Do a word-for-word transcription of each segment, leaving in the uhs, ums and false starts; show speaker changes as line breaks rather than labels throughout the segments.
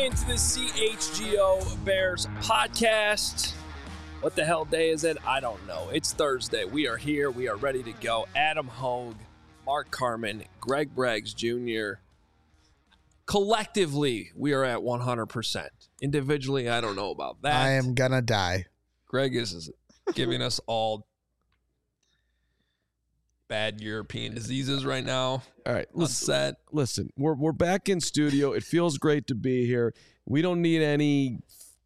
into the C H G O Bears podcast. What the hell day is it? I don't know. It's Thursday. We are here. We are ready to go. Adam Hogue, Mark Carman, Greg Braggs Junior Collectively, we are at one hundred percent. Individually, I don't know about that.
I am gonna die.
Greg is giving us all bad European diseases right now.
All right, listen,
set.
listen, we're we're back in studio. It feels great to be here. We don't need any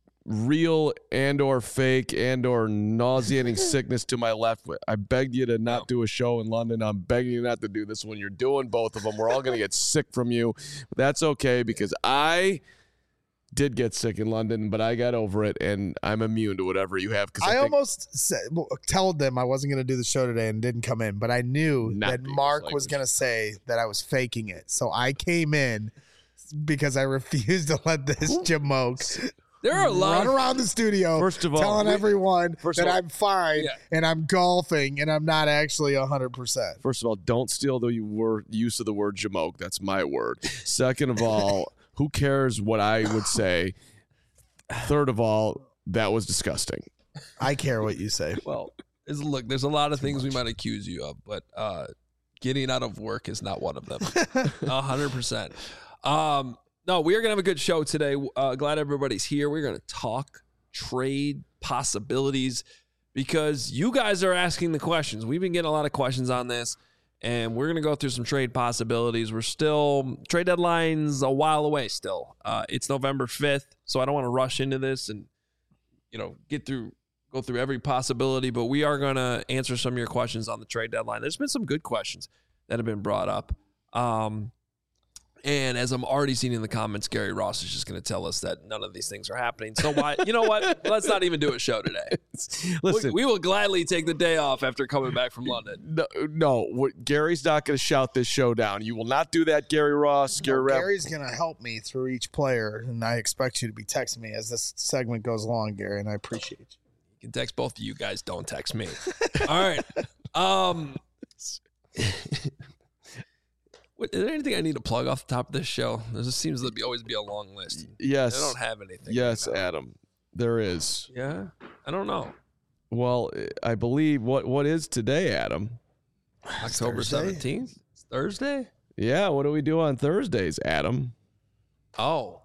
real and or fake and or nauseating sickness to my left. I begged you to not do a show in London. I'm begging you not to do this one. You're doing both of them. We're all going to get sick from you. But that's okay because I did get sick in London, but I got over it, and I'm immune to whatever you have.
I,
I
almost said, well, told them I wasn't going to do the show today and didn't come in, but I knew
Not
that
the
Mark
English
was going to say that I was faking it. So I came in because I refused to let this jamoke
There are a lot
run
of
around the studio
First of all,
telling
we-
everyone
first
that
of all-
I'm fine
Yeah.
and I'm golfing and I'm not actually one hundred percent.
First of all, don't steal the word, use of the word jamoke. That's my word. Second of all, who cares what I would say? Third of all, that was disgusting.
I care what you say.
Well, is look, there's a lot of things we might accuse you of, but uh, getting out of work is not one of them. A hundred percent. Um, no, we are gonna have a good show today. Uh, glad everybody's here. We're gonna talk trade possibilities because you guys are asking the questions. We've been getting a lot of questions on this, and we're gonna go through some trade possibilities. We're still trade deadline's a while away. Still, uh, it's November fifth, so I don't want to rush into this and you know get through. go through every possibility, but we are going to answer some of your questions on the trade deadline. There's been some good questions that have been brought up. Um, and as I'm already seeing in the comments, Gary Ross is just going to tell us that none of these things are happening. So why, you know what? Let's not even do a show today.
Listen,
we, we will gladly take the day off after coming back from London.
no, no what, Gary's not going to shout this show down. You will not do that, Gary Ross. Gary
No,
Rapp-
Gary's going to help me through each player, and I expect you to be texting me as this segment goes along, Gary, and I appreciate you.
You can text both of you guys. Don't text me. All right. Um, what, is there anything I need to plug off the top of this show? There just seems to be always be a long list.
yes.
I don't have anything.
Yes,
right now.
Adam. There is.
Yeah. I don't know.
Well, I believe what what is today, Adam?
October
Thursday?
seventeenth? It's Thursday?
Yeah, what do we do on Thursdays, Adam?
Oh.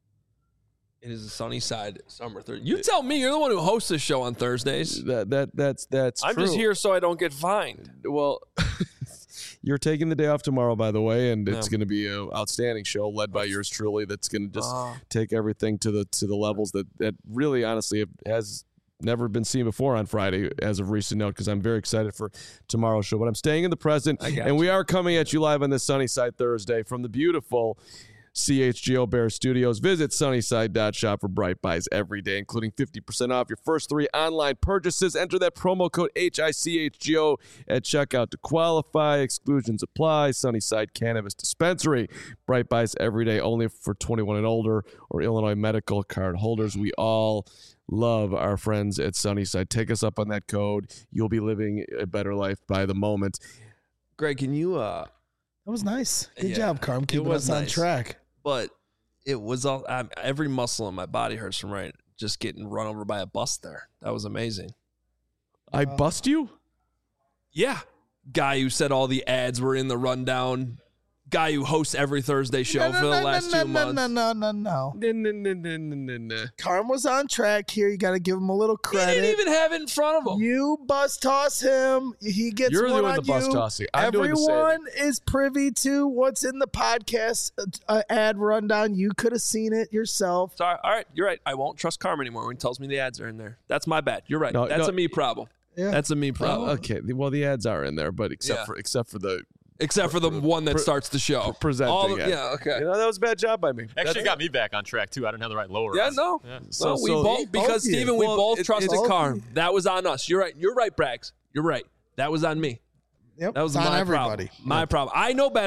It is a sunny side summer Thursday. You tell me. You're the one who hosts this show on Thursdays.
That that that's that's
I'm
true.
just here so I don't get fined.
Well, you're taking the day off tomorrow, by the way, and it's
Yeah.
going to be an outstanding show led by yours truly. That's going to just
Ah.
take everything to the to the levels that that really, honestly, has never been seen before on Friday as of recent note. Because I'm very excited for tomorrow's show. But I'm staying in the present,
I got
and
you.
we are coming at you live on this Sunny Side Thursday from the beautiful C H G O Bear Studios. Visit sunnyside dot shop for bright buys every day, including fifty percent off your first three online purchases. Enter that promo code H I C H G O at checkout to qualify. Exclusions apply. Sunnyside Cannabis Dispensary. Bright buys every day, only for twenty-one and older or Illinois medical card holders. We all love our friends at Sunnyside. Take us up on that code. You'll be living a better life by the moment.
Greg, can you uh
That was nice. Good
Yeah,
job, Carm.
it
Keeping
was
us on
nice.
track.
but it was all um, every muscle in my body hurts from right just getting run over by a bus there. That was amazing.
I
Wow.
bust you?
Yeah. Guy who said all the ads were in the rundown. Guy who hosts every Thursday show
No, no,
for the
no,
last
no,
two
no,
months.
No, no, no, no,
No, no, no, no, no, no, no.
Carm was on track here. You got to give him a little
He
credit.
didn't even have it in front of him.
You bus toss him. He gets
You're the
one
one
on
with the bus
you.
tossing. I'm doing the saving.
Everyone is privy to what's in the podcast uh, ad rundown. You could have seen it yourself.
Sorry. All right. You're right. I won't trust Carm anymore when he tells me the ads are in there. That's my bad. You're right.
No,
That's
no.
a me problem.
Yeah.
That's a me problem.
Oh, okay. Well, the ads are in there, but except
Yeah.
for except for the
Except for the one that
Pre-
starts the show.
presenting
All the-
ad.
yeah, okay.
You know, that was a bad job by me.
Actually
That's-
got me back on track, too. I didn't have the right lower.
Yeah, no.
Yeah.
So-
no, we
so-
both, because,
both you.
Steven, we
Well,
both
it-
trusted
it's-
Carm. That was on us. You're right. You're right, Braggs. You're right. That was on me.
Yep.
That was
it's on
my
everybody.
problem. My problem. I know better.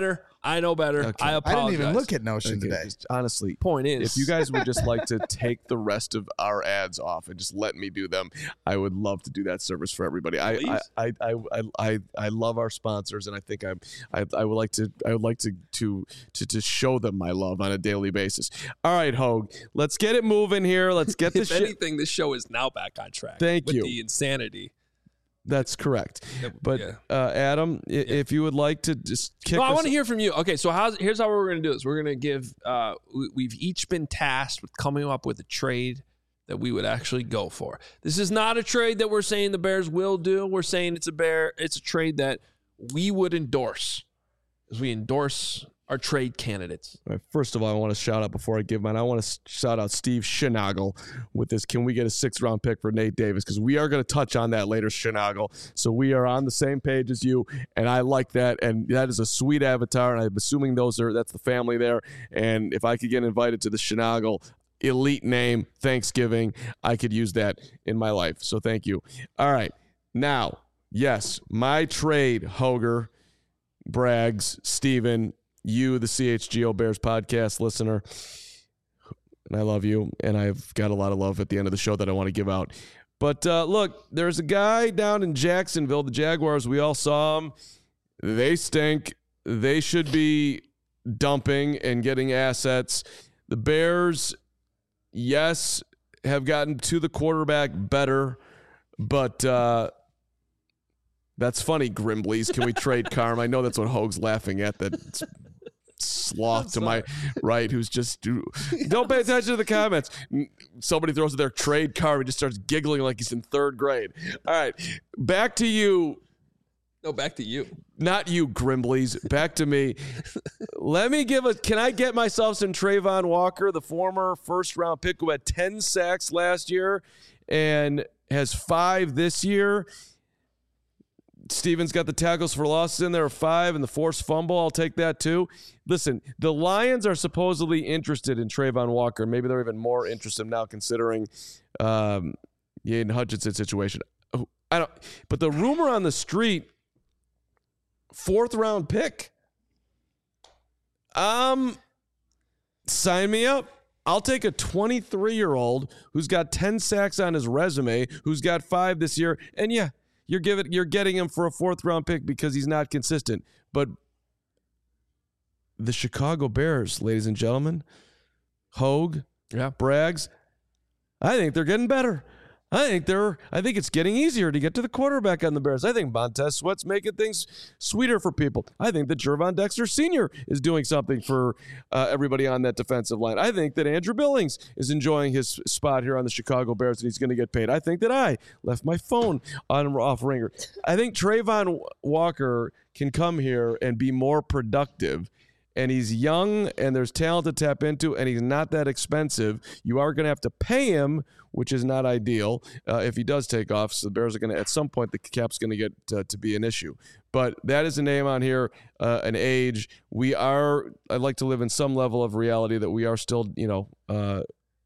I know better.
Okay.
I
I
apologize.
didn't even look at Notion
Okay,
today.
just honestly,
Point is,
if you guys would just like to take the rest of our ads off and just let me do them, I would love to do that service for everybody. I
Please.
I, I, I, I, I love our sponsors, and I think I'm, I I would like to I would like to to to to show them my love on a daily basis. All right, Hogue, let's get it moving here. Let's get
if
this shit.
anything, this show is now back on track.
Thank
with
you.
The insanity.
That's correct. But
Yeah.
uh, Adam, i- if you would like to just kick
No, I
us-
want to hear from you. Okay, so how's, here's how we're going to do this. We're going to give, uh, we, we've each been tasked with coming up with a trade that we would actually go for. This is not a trade that we're saying the Bears will do. We're saying it's a bear. It's a trade that we would endorse, as we endorse our trade candidates.
All right, first of all, I want to shout out before I give mine. I want to shout out Steve Schnagel with this. Can we get a sixth round pick for Nate Davis? Because we are going to touch on that later, Schnagel. So we are on the same page as you, and I like that. And that is a sweet avatar. And I'm assuming those are that's the family there. And if I could get invited to the Schnagel elite name Thanksgiving, I could use that in my life. So thank you. All right, now, yes, my trade, Hoger, Braggs, Steven, you, the C H G O Bears podcast listener, and I love you, and I've got a lot of love at the end of the show that I want to give out. But uh, look, there's a guy down in Jacksonville, the Jaguars, we all saw him. They stink. They should be dumping and getting assets. The Bears, yes, have gotten to the quarterback better, but uh, that's funny, Grimblies. Can we trade Carm? I know that's what Hogue's laughing at, that sloth to my right who's just don't pay attention to the comments. Somebody throws their trade card, he just starts giggling like he's in third grade. All right, back to you.
No, back to you.
Not you, Grimblies. Back to me. Let me give a. Can I get myself some Trayvon Walker, the former first round pick who had ten sacks last year and has five this year? Steven's got the tackles for losses in there, five, and the forced fumble. I'll take that too. Listen, the Lions are supposedly interested in Trayvon Walker. Maybe they're even more interested now considering um, the Aiden Hutchinson situation. I don't. But the rumor on the street, fourth round pick. Um, sign me up. I'll take a twenty-three-year-old who's got ten sacks on his resume, who's got five this year, and yeah. You're giving, you're getting him for a fourth round pick because he's not consistent. But the Chicago Bears, ladies and gentlemen, Hogue,
Yeah.
Braggs, I think they're getting better. I think they're. I think it's getting easier to get to the quarterback on the Bears. I think Montez Sweat's making things sweeter for people. I think that Gervon Dexter Senior is doing something for uh, everybody on that defensive line. I think that Andrew Billings is enjoying his spot here on the Chicago Bears and he's going to get paid. I think that I left my phone on off ringer. I think Trayvon Walker can come here and be more productive. And he's young, and there's talent to tap into, and he's not that expensive. You are going to have to pay him, which is not ideal uh, if he does take off. So the Bears are going to, at some point, the cap's going to get uh, to be an issue. But that is a name on here, uh, an age. We are, I'd like to live in some level of reality that we are still, you know, uh,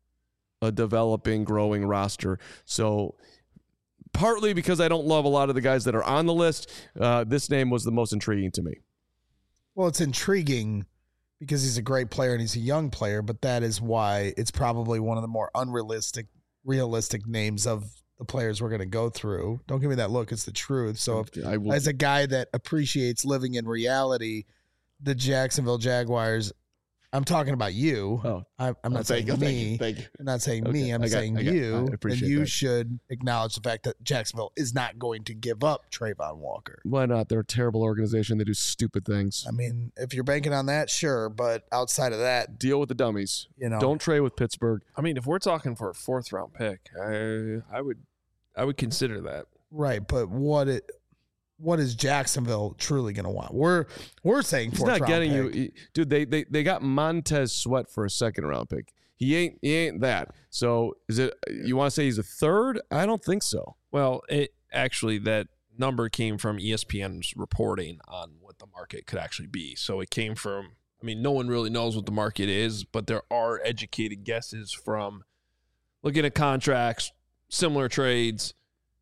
a developing, growing roster. So partly because I don't love a lot of the guys that are on the list, uh, this name was the most intriguing to me.
Well, it's intriguing because he's a great player and he's a young player, but that is why it's probably one of the more unrealistic, realistic names of the players we're going to go through. Don't give me that look. It's the truth. So if,
I will,
as a guy that appreciates living in reality, the Jacksonville Jaguars, I'm talking about you.
Oh,
I, I'm not saying
thank
me.
you, thank you.
I'm not saying
Okay,
me. I'm
I got-
saying
I got-
you.
I
And
appreciate
you
that.
should acknowledge the fact that Jacksonville is not going to give up Trayvon Walker.
Why not? They're a terrible organization. They do stupid things.
I mean, if you're banking on that, sure. But outside of that,
Deal with the dummies.
you know,
Don't trade with Pittsburgh.
I mean, if we're talking for a fourth round pick, I I would I would consider that.
right. But what it, what is Jacksonville truly going to want? We're we're saying
He's
fourth
not
round
getting
pick.
you, he- dude. They they they got Montez Sweat for a second round pick. He ain't he ain't that. So is it? You want to say he's a third? I don't think so.
Well, it actually that number came from E S P N's reporting on what the market could actually be. So it came from. I mean, no one really knows what the market is, but there are educated guesses from looking at contracts, similar trades,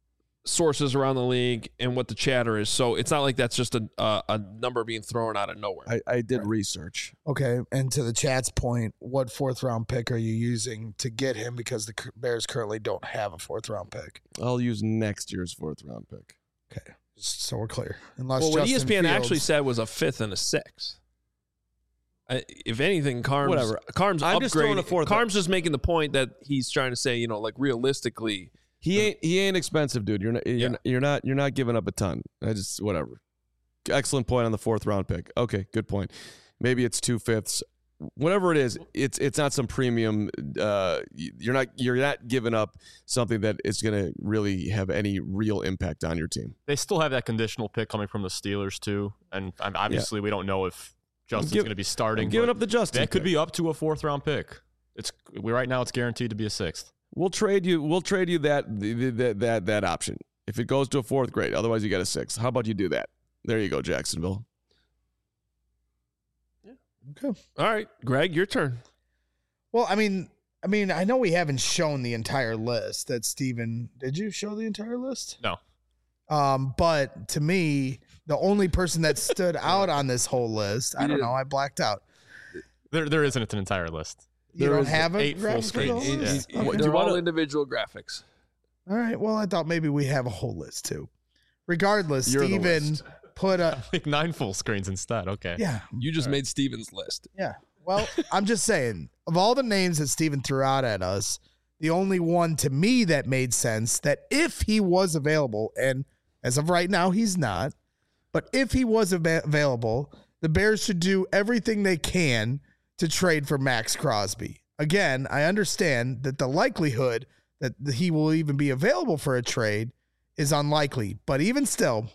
sources around the league and what the chatter is. So it's not like that's just a uh, a number being thrown out of nowhere.
I, I did research.
Okay, and to the chat's point, what fourth round pick are you using to get him? Because the Bears currently don't have a fourth round pick.
I'll use next year's fourth round pick.
Okay, just so we're clear. Unless
well, what
Justin
E S P N
Fields,
actually said was a fifth and a sixth. I, if anything, Carms,
Whatever.
Carms
I'm just throwing
upgraded.
a fourth
Carms is making the point that he's trying to say, you know, like realistically,
He ain't he ain't expensive, dude. You're not you're,
Yeah.
not, you're not you're not giving up a ton. I just whatever. Excellent point on the fourth round pick. Okay, good point. Maybe it's two fifths. Whatever it is, it's it's not some premium. Uh, you're not you're not giving up something that is going to really have any real impact on your team.
They still have that conditional pick coming from the Steelers too, and um, obviously we don't know if Justin's
give-
going to be starting.
I'm giving
but
up the Justin.
That could
pick.
be up to a fourth round pick. It's we right now it's guaranteed to be a sixth.
We'll trade you. We'll trade you that that that that option. If it goes to a fourth grade, otherwise you got a sixth. How about you do that? There you go, Jacksonville.
Okay.
all right, Greg, your turn.
Well, I mean, I mean, I know we haven't shown the entire list. That Steven, did you show the entire list?
No.
Um, but to me, the only person that stood out on this whole list, I don't know, I blacked out.
There there isn't an entire list.
You
There
don't
is
have a
eight full
graphic for the
screens.
whole
Yeah.
list?
They're
Okay.
do you
all
wanna-
individual graphics.
All right. Well, I thought maybe we have a whole list too. Regardless,
You're the
Steven
list.
put a
Like nine full screens instead. Okay.
yeah,
You just made Steven's list.
yeah. Well, I'm just saying, of all the names that Steven threw out at us, the only one to me that made sense that if he was available, and as of right now, he's not, but if he was av- available, the Bears should do everything they can to trade for Max Crosby. Again, I understand that the likelihood that he will even be available for a trade is unlikely, but even still,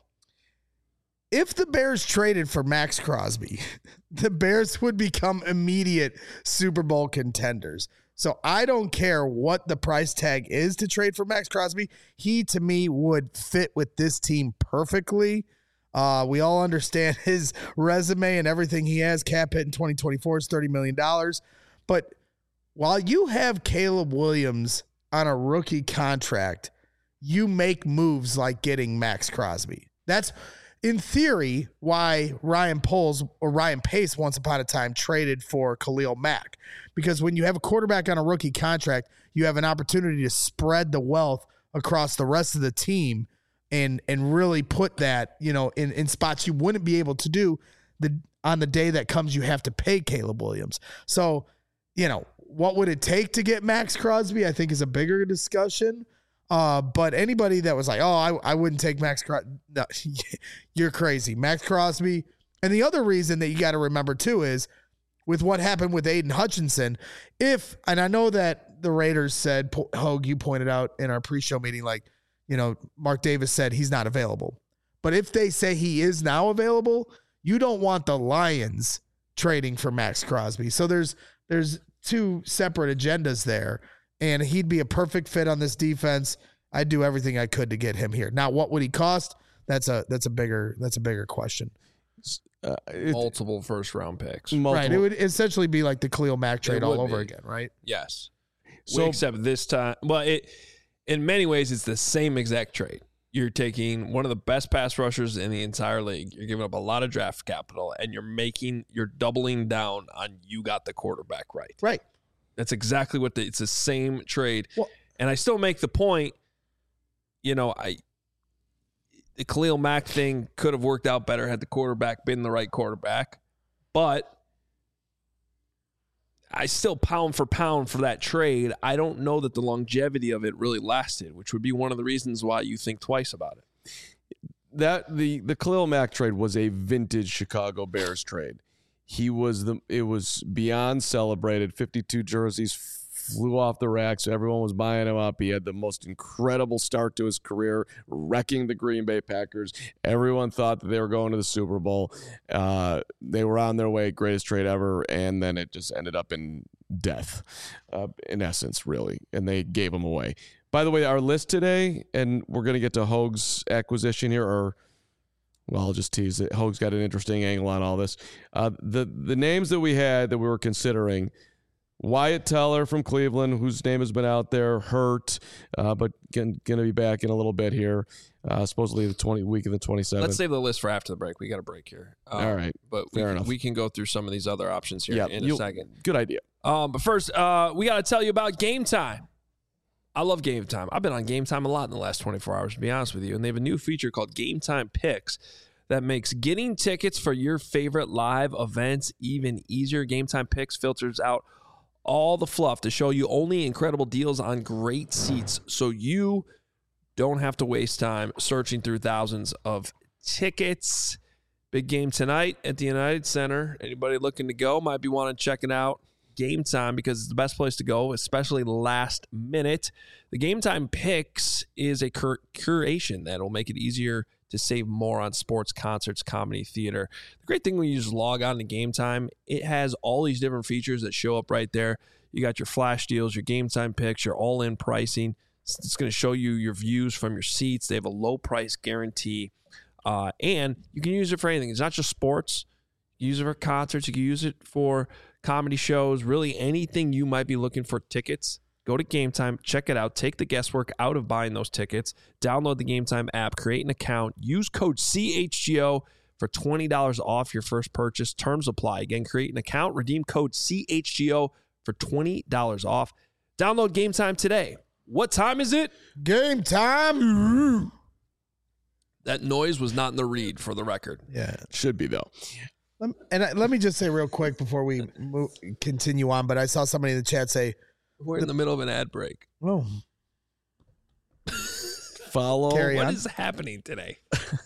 if the Bears traded for Max Crosby, the Bears would become immediate Super Bowl contenders. So I don't care what the price tag is to trade for Max Crosby. He, to me, would fit with this team perfectly. Uh, we all understand his resume and everything he has. Cap hit in twenty twenty-four is thirty million dollars. But while you have Caleb Williams on a rookie contract, you make moves like getting Max Crosby. That's, in theory, why Ryan Poles or Ryan Pace once upon a time traded for Khalil Mack. Because when you have a quarterback on a rookie contract, you have an opportunity to spread the wealth across the rest of the team and and really put that, you know, in, in spots you wouldn't be able to do the on the day that comes you have to pay Caleb Williams. So, you know, what would it take to get Max Crosby, I think, is a bigger discussion. Uh, but anybody that was like, oh, I, I wouldn't take Max Crosby, no, you're crazy. Max Crosby. And the other reason that you got to remember, too, is with what happened with Aiden Hutchinson, if, and I know that the Raiders said, Hogue, you pointed out in our pre-show meeting, like, you know, Mark Davis said he's not available. But if they say he is now available, you don't want the Lions trading for Max Crosby. So there's there's two separate agendas there. And he'd be a perfect fit on this defense. I'd do everything I could to get him here. Now, what would he cost? That's a that's a bigger that's a bigger question.
Uh, it-
Multiple first round picks.
multiple-
Right. It would essentially be like the Khalil Mack trade
It
all
would
over
be.
again, right?
Yes.
So-
So, except this time, well, it in many ways it's the same exact trade. You're taking one of the best pass rushers in the entire league. You're giving up a lot of draft capital, and you're making you're doubling down on you got the quarterback right.
Right.
That's exactly what the, it's the same trade.
Well-
and I still make the point, you know, I the Khalil Mack thing could have worked out better had the quarterback been the right quarterback. But I still pound for pound for that trade. I don't know that the longevity of it really lasted, which would be one of the reasons why you think twice about it.
that the the Khalil Mack trade was a vintage Chicago Bears trade. He was the it was beyond celebrated. fifty-two jerseys flew off the rack, so everyone was buying him up. He had the most incredible start to his career, wrecking the Green Bay Packers. Everyone thought that they were going to the Super Bowl. Uh, they were on their way, greatest trade ever, and then it just ended up in death, uh, in essence, really. And they gave him away. By the way, our list today, and we're going to get to Hogue's acquisition here, or well, I'll just tease it. Hogue's got an interesting angle on all this. Uh, the the names that we had that we were considering Wyatt Teller from Cleveland, whose name has been out there, hurt, uh, but going to be back in a little bit here. Uh, supposedly the twenty week of the twenty-seventh.
Let's save the list for after the break. We got a break here. Um,
All right.
But we
Fair
can,
enough.
we can go through some of these other options here
Yeah,
in a
you'll-
second.
Good idea.
Um, but first, uh, we got to tell you about Game Time. I love Game Time. I've been on Game Time a lot in the last twenty-four hours, to be honest with you. And they have a new feature called Game Time Picks that makes getting tickets for your favorite live events even easier. Game Time Picks filters out all the fluff to show you only incredible deals on great seats, so you don't have to waste time searching through thousands of tickets. Big game tonight at the United Center. Anybody looking to go might be wanting to check it out. Game Time, because it's the best place to go, especially last minute. The Game Time Picks is a cur- curation that will make it easier to save more on sports, concerts, comedy, theater. The great thing when you just log on to Game Time, it has all these different features that show up right there. You got your flash deals, your Game Time picks, your all-in pricing. It's going to show you your views from your seats. They have a low price guarantee. Uh, and you can use it for anything. It's not just sports. You can use it for concerts. You can use it for comedy shows. Really anything you might be looking for tickets. Go to Game Time. Check it out. Take the guesswork out of buying those tickets. Download the Game Time app. Create an account. Use code C H G O for twenty dollars off your first purchase. Terms apply. Again, create an account. Redeem code C H G O for twenty dollars off. Download Game Time today. What time is it?
Game time.
That noise was not in the read, for the record.
Yeah.
Should be, though.
Lem- And I, let me just say real quick before we move, continue on, but I saw somebody in the chat say,
We're in the middle of an ad break.
oh,
Follow.
Carry
What
on.
is happening today?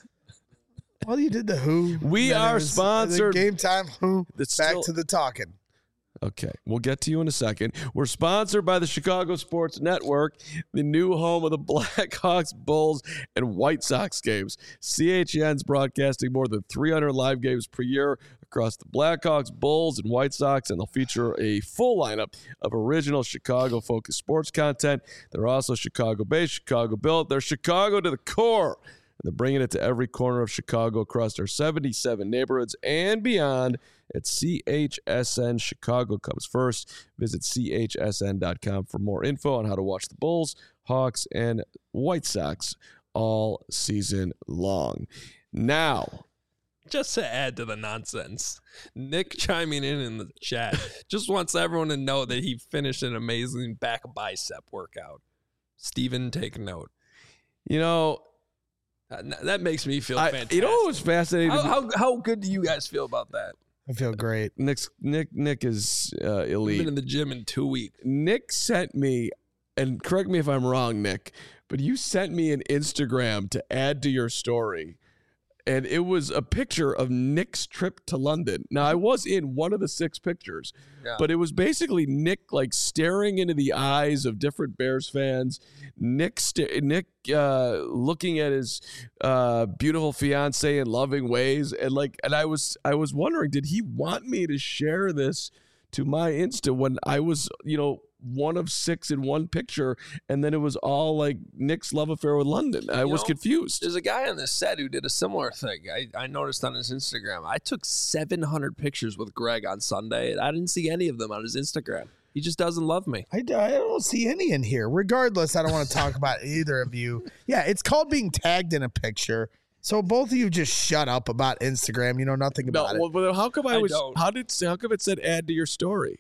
well, you did the Who.
We
Then it
are
was, uh, the
sponsored-
Game Time Who.
It's
Back
still-
to the talking.
Okay, we'll get to you in a second. We're sponsored by the Chicago Sports Network, the new home of the Blackhawks, Bulls, and White Sox games. C H N's broadcasting more than three hundred live games per year across the Blackhawks, Bulls, and White Sox, and they'll feature a full lineup of original Chicago-focused sports content. They're also Chicago-based, Chicago-built. They're Chicago to the core. And they're bringing it to every corner of Chicago across their seventy-seven neighborhoods and beyond. At C H S N, Chicago comes first. Visit C H S N dot com for more info on how to watch the Bulls, Hawks, and White Sox all season long. Now,
Just to add to the nonsense, Nick chiming in in the chat just wants everyone to know that he finished an amazing back bicep workout. Steven, take note.
you know,
Uh, That makes me feel
I,
fantastic.
you know what was fascinating?
how, how, how good do you guys feel about that?
I feel great.
Nick's, Nick Nick is uh,
I've
elite.
been in the gym in two weeks.
Nick sent me, and correct me if I'm wrong, Nick, but you sent me an Instagram to add to your story. And it was a picture of Nick's trip to London. Now, I was in one of the six pictures,
Yeah.
but it was basically Nick like staring into the eyes of different Bears fans. Nick, st- Nick uh, looking at his uh, beautiful fiance in loving ways, and like, and I was, I was wondering, did he want me to share this to my Insta when I was, you know, one of six in one picture, and then it was all like Nick's love affair with London? I
You
was
know,
confused.
There's a guy on this set who did a similar thing. I, I noticed on his Instagram. I took seven hundred pictures with Greg on Sunday, and I didn't see any of them on his Instagram. He just doesn't love me.
I, I don't see any in here. Regardless, I don't want to talk about either of you. Yeah, it's called being tagged in a picture. So both of you just shut up about Instagram. You know nothing
No,
about
well, but how come I,
I
was?
don't.
How did? How come it said add to your story?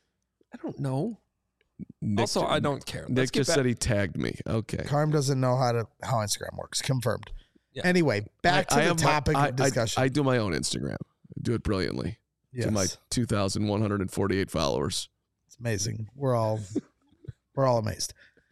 I don't know.
Nick,
Also, I don't care. Let's
Nick
get
just
back-
said he tagged me. Okay.
it. Carm doesn't know how to how Instagram works. Confirmed.
Yeah.
Anyway, back
I-
to
I
the
have my-
topic
I,
of discussion.
I, I do my own Instagram. I do it brilliantly
yes.
to my two thousand one hundred forty-eight followers.
It's amazing. We're all we're all amazed.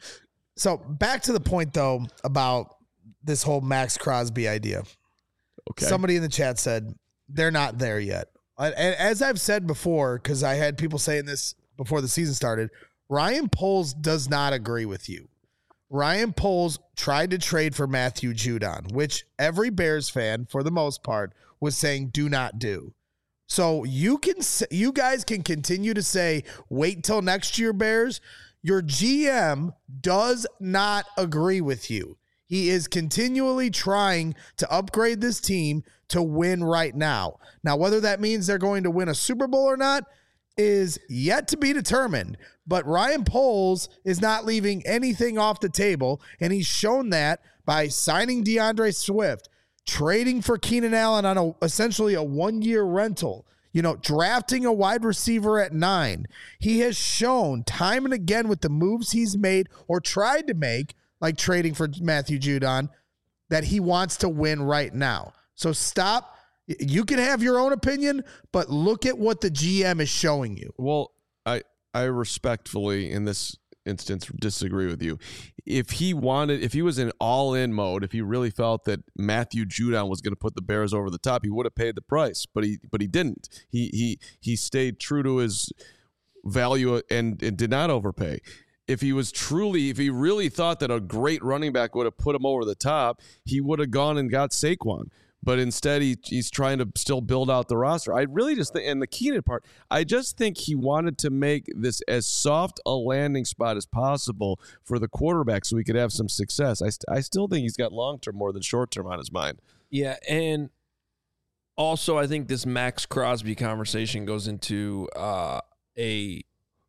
So back to the point though about this whole Max Crosby idea.
Okay.
Somebody in the chat said they're not there yet. And as I've said before, because I had people saying this before the season started, Ryan Poles does not agree with you. Ryan Poles tried to trade for Matthew Judon, which every Bears fan, for the most part, was saying do not do. So you can, you guys can continue to say, wait till next year, Bears. Your G M does not agree with you. He is continually trying to upgrade this team to win right now. Now, whether that means they're going to win a Super Bowl or not, is yet to be determined, but Ryan Poles is not leaving anything off the table, and he's shown that by signing DeAndre Swift, trading for Keenan Allen on a, essentially a one-year rental, you know, drafting a wide receiver at nine. He has shown time and again with the moves he's made or tried to make, like trading for Matthew Judon, that he wants to win right now. So stop. You can have your own opinion, but look at what the G M is showing you.
Well, I I respectfully, in this instance, disagree with you. If he wanted, if he was in all-in mode, if he really felt that Matthew Judon was going to put the Bears over the top, he would have paid the price. But he but he didn't. He he he stayed true to his value and, and did not overpay. If he was truly, if he really thought that a great running back would have put him over the top, he would have gone and got Saquon. But instead, he, he's trying to still build out the roster. I really just think, and the Keenan part, I just think he wanted to make this as soft a landing spot as possible for the quarterback so he could have some success. I, st- I still think he's got long-term more than short-term on his mind.
Yeah, and also I think this Max Crosby conversation goes into uh, a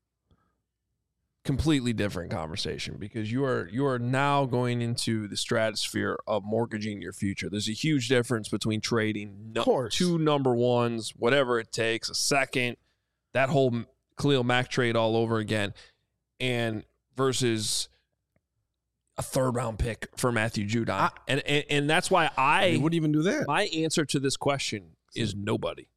completely different conversation because you are you are now going into the stratosphere of mortgaging your future. There's a huge difference between trading no, two number ones, whatever it takes, a second, that whole Khalil Mack trade all over again, and versus a third round pick for Matthew Judon. I, and, and and that's why I
you wouldn't even do that.
My answer to this question is nobody.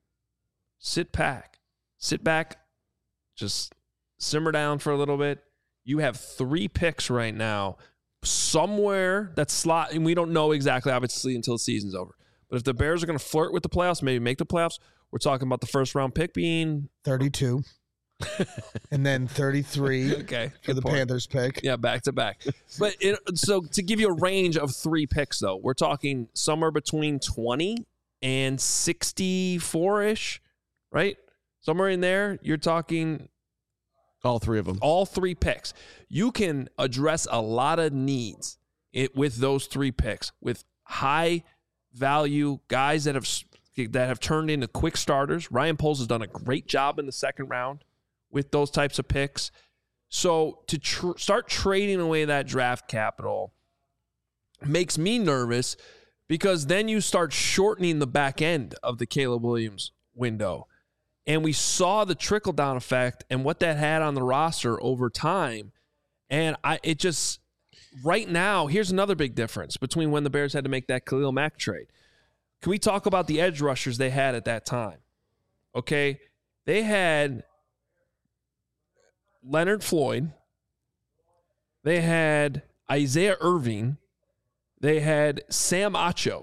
Sit back. Sit back. Just simmer down for a little bit. You have three picks right now somewhere that's slot, and we don't know exactly, obviously, until the season's over. But if the Bears are going to flirt with the playoffs, maybe make the playoffs, we're talking about the first round pick being
thirty-two. And then thirty-three
okay,
for the
point.
Panthers pick.
Yeah, back to back. But it, so to give you a range of three picks, though, we're talking somewhere between twenty and sixty-four-ish, right? Somewhere in there, you're talking
all three of them.
All three picks. You can address a lot of needs it, with those three picks, with high value guys that have that have turned into quick starters. Ryan Poles has done a great job in the second round with those types of picks. So to tr- start trading away that draft capital makes me nervous because then you start shortening the back end of the Caleb Williams window. And we saw the trickle-down effect and what that had on the roster over time. And I, it just, right now, here's another big difference between when the Bears had to make that Khalil Mack trade. Can we talk about the edge rushers they had at that time? Okay, they had Leonard Floyd. They had Isaiah Irving. They had Sam Acho.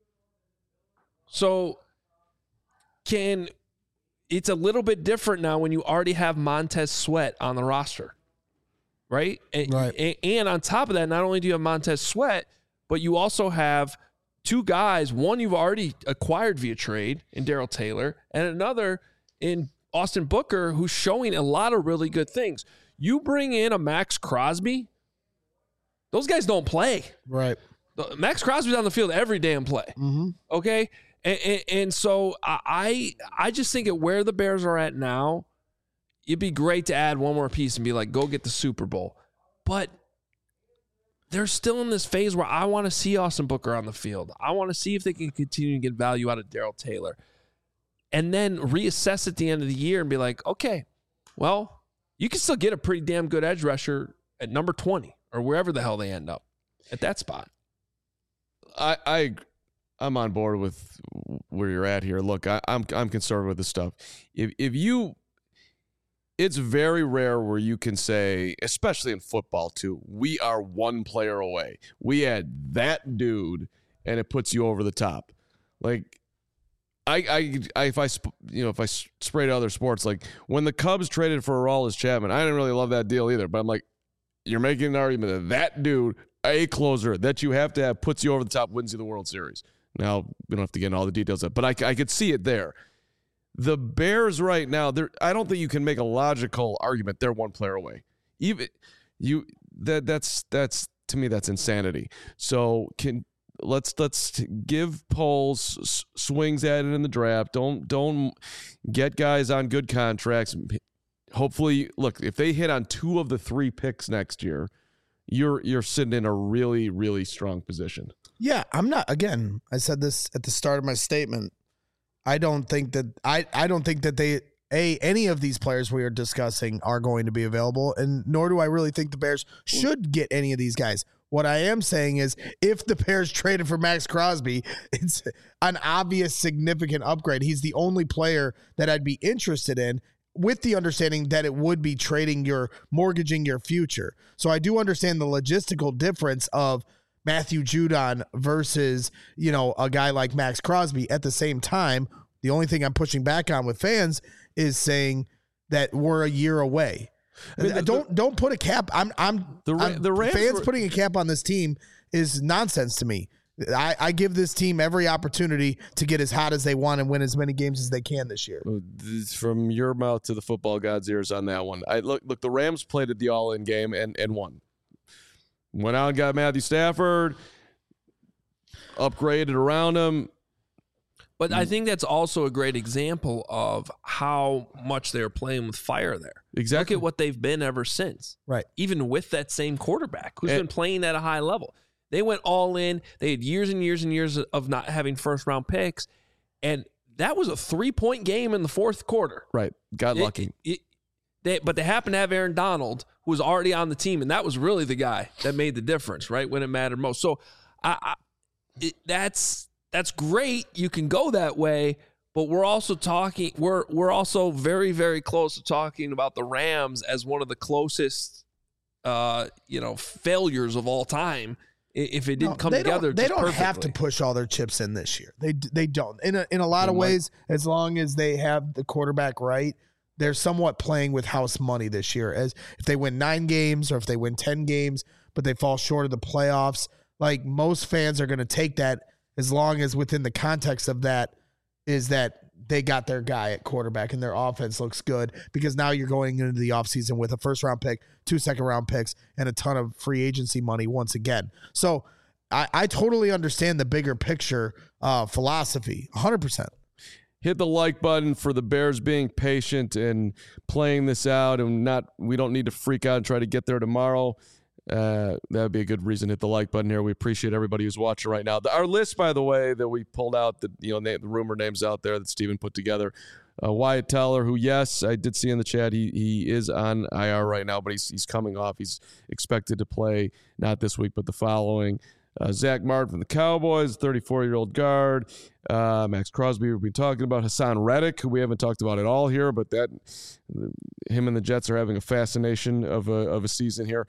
So can... It's a little bit different now when you already have Montez Sweat on the roster, right? And,
right.
And, and on top of that, not only do you have Montez Sweat, but you also have two guys. One you've already acquired via trade in Darrell Taylor, and another in Austin Booker, who's showing a lot of really good things. You bring in a Max Crosby, those guys don't play.
Right.
Max Crosby's on the field every damn play.
Mm-hmm.
Okay? And, and, and so I I just think at where the Bears are at now, it'd be great to add one more piece and be like, go get the Super Bowl. But they're still in this phase where I want to see Austin Booker on the field. I want to see if they can continue to get value out of Darrell Taylor. And then reassess at the end of the year and be like, okay, well, you can still get a pretty damn good edge rusher at number twenty or wherever the hell they end up at that spot.
I, I I'm on board with where you're at here. Look, I, I'm I'm concerned with this stuff. If if you, it's very rare where you can say, especially in football too, we are one player away. We had that dude, and it puts you over the top. Like, I I, I if I you know if I spray to other sports, like when the Cubs traded for Aroldis Chapman, I didn't really love that deal either. But I'm like, you're making an argument that that dude, a closer that you have to have, puts you over the top, wins you the World Series. Now, we don't have to get into all the details of it, but I, I could see it there. The Bears right now, I don't think you can make a logical argument they're one player away. Even you that that's that's to me that's insanity. So can let's let's give Poles s- swings at it in the draft. Don't don't get guys on good contracts. Hopefully, look, if they hit on two of the three picks next year, you're you're sitting in a really, really strong position.
Yeah, I'm not. Again, I said this at the start of my statement. I don't think that I, I don't think that they a any of these players we are discussing are going to be available, and nor do I really think the Bears should get any of these guys. What I am saying is, if the Bears traded for Max Crosby, it's an obvious, significant upgrade. He's the only player that I'd be interested in, with the understanding that it would be trading your, mortgaging your future. So I do understand the logistical difference of Matthew Judon versus, you know, a guy like Max Crosby. At the same time, the only thing I'm pushing back on with fans is saying that we're a year away. I mean, the, don't the, don't put a cap. I'm I'm
the
I'm,
the Rams
fans
were,
putting a cap on this team is nonsense to me. I, I give this team every opportunity to get as hot as they want and win as many games as they can this year.
From your mouth to the football god's ears on that one. I look look. The Rams played at the all-in game and and won. Went out and got Matthew Stafford, upgraded around him.
But I think that's also a great example of how much they're playing with fire there.
Exactly.
Look at what they've been ever since.
Right.
Even with that same quarterback who's
and,
been playing at a high level. They went all in. They had years and years and years of not having first-round picks. And that was a three-point game in the fourth quarter.
Right. Got
it,
lucky.
It, it, they, but they happened to have Aaron Donald, who was already on the team, and that was really the guy that made the difference, right, when it mattered most. So I, I it, that's that's great. You can go that way, but we're also talking we're we're also very, very close to talking about the Rams as one of the closest uh, you know, failures of all time. If it didn't
no,
come
they
together,
don't, they don't
perfectly.
have to push all their chips in this year. They they don't. In a, in a lot they of might. ways, as long as they have the quarterback right, they're somewhat playing with house money this year. As if they win nine games or if they win ten games, but they fall short of the playoffs, like most fans are going to take that as long as within the context of that is that they got their guy at quarterback and their offense looks good, because now you're going into the offseason with a first-round pick, two second-round picks, and a ton of free agency money once again. So I, I totally understand the bigger picture uh, philosophy, one hundred percent.
Hit the like button for the Bears being patient and playing this out, and not we don't need to freak out and try to get there tomorrow. Uh, that would be a good reason to hit the like button here. We appreciate everybody who's watching right now. The, our list, by the way, that we pulled out, the you know the, the rumor names out there that Steven put together. Uh, Wyatt Teller, who, yes, I did see in the chat, he he is on I R right now, but he's he's coming off. He's expected to play not this week, but the following. Uh, Zach Martin from the Cowboys, thirty-four-year-old guard. Uh, Max Crosby, we've been talking about. Hassan Reddick, who we haven't talked about at all here, but that him and the Jets are having a fascination of a of a season here.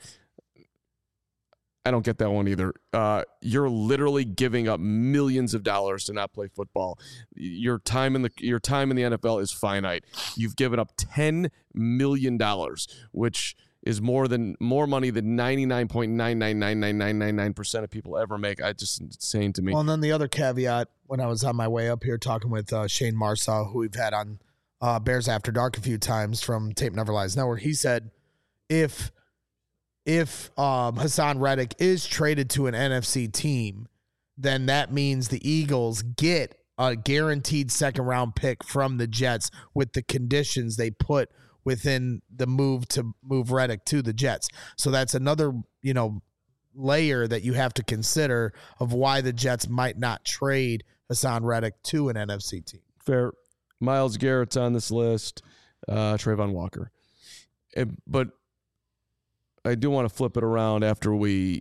I don't get that one either. Uh, you're literally giving up millions of dollars to not play football. Your time in the your time in the N F L is finite. You've given up ten million dollars, which is more than more money than ninety-nine point nine nine nine nine nine nine nine percent of people ever make. I just insane to me.
Well, and then the other caveat, when I was on my way up here talking with uh, Shane Marsaw, who we've had on uh, Bears After Dark a few times from Tape Never Lies Network, he said if if um, Hassan Reddick is traded to an N F C team, then that means the Eagles get a guaranteed second round pick from the Jets with the conditions they put within the move to move Reddick to the Jets. So that's another, you know, layer that you have to consider of why the Jets might not trade Hassan Reddick to an N F C team.
Fair. Myles Garrett's on this list. Uh, Trayvon Walker. It, but I do want to flip it around after we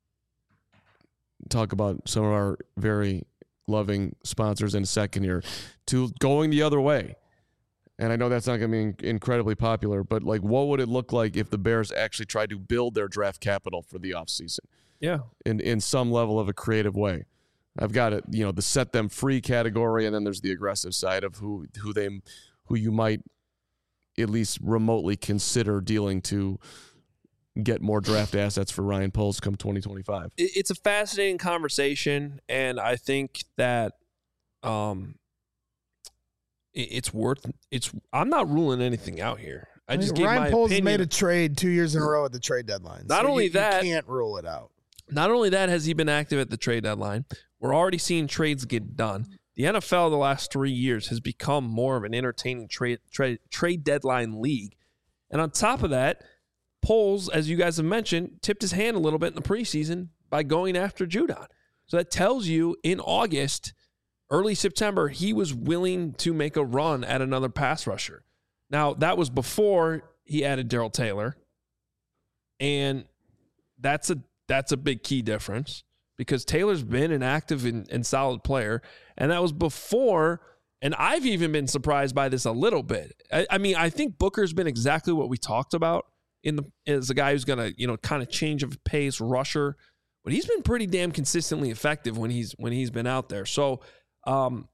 talk about some of our very loving sponsors in a second here to going the other way. And I know that's not going to be incredibly popular, but like, what would it look like if the Bears actually tried to build their draft capital for the offseason?
Yeah.
In in some level of a creative way. I've got it, you know, the set them free category, and then there's the aggressive side of who who they who you might at least remotely consider dealing to get more draft assets for Ryan Poles come twenty twenty-five.
It's a fascinating conversation, and I think that um, it's worth it's. I'm not ruling anything out here. I just
I mean,
gave
Ryan
my
Poles
opinion.
made a trade two years in a row at the trade deadline.
Not
so
only
you,
that,
you can't rule it out.
Not only that has he been active at the trade deadline, we're already seeing trades get done. The N F L the last three years has become more of an entertaining trade trade trade deadline league. And on top of that, Poles, as you guys have mentioned, tipped his hand a little bit in the preseason by going after Judon. So that tells you in August, early September, he was willing to make a run at another pass rusher. Now, that was before he added Darrell Taylor. And that's a that's a big key difference because Taylor's been an active and, and solid player. And that was before, and I've even been surprised by this a little bit. I, I mean, I think Booker's been exactly what we talked about in the as a guy who's going to, you know, kind of change of pace, rusher. But he's been pretty damn consistently effective when he's when he's been out there. So um,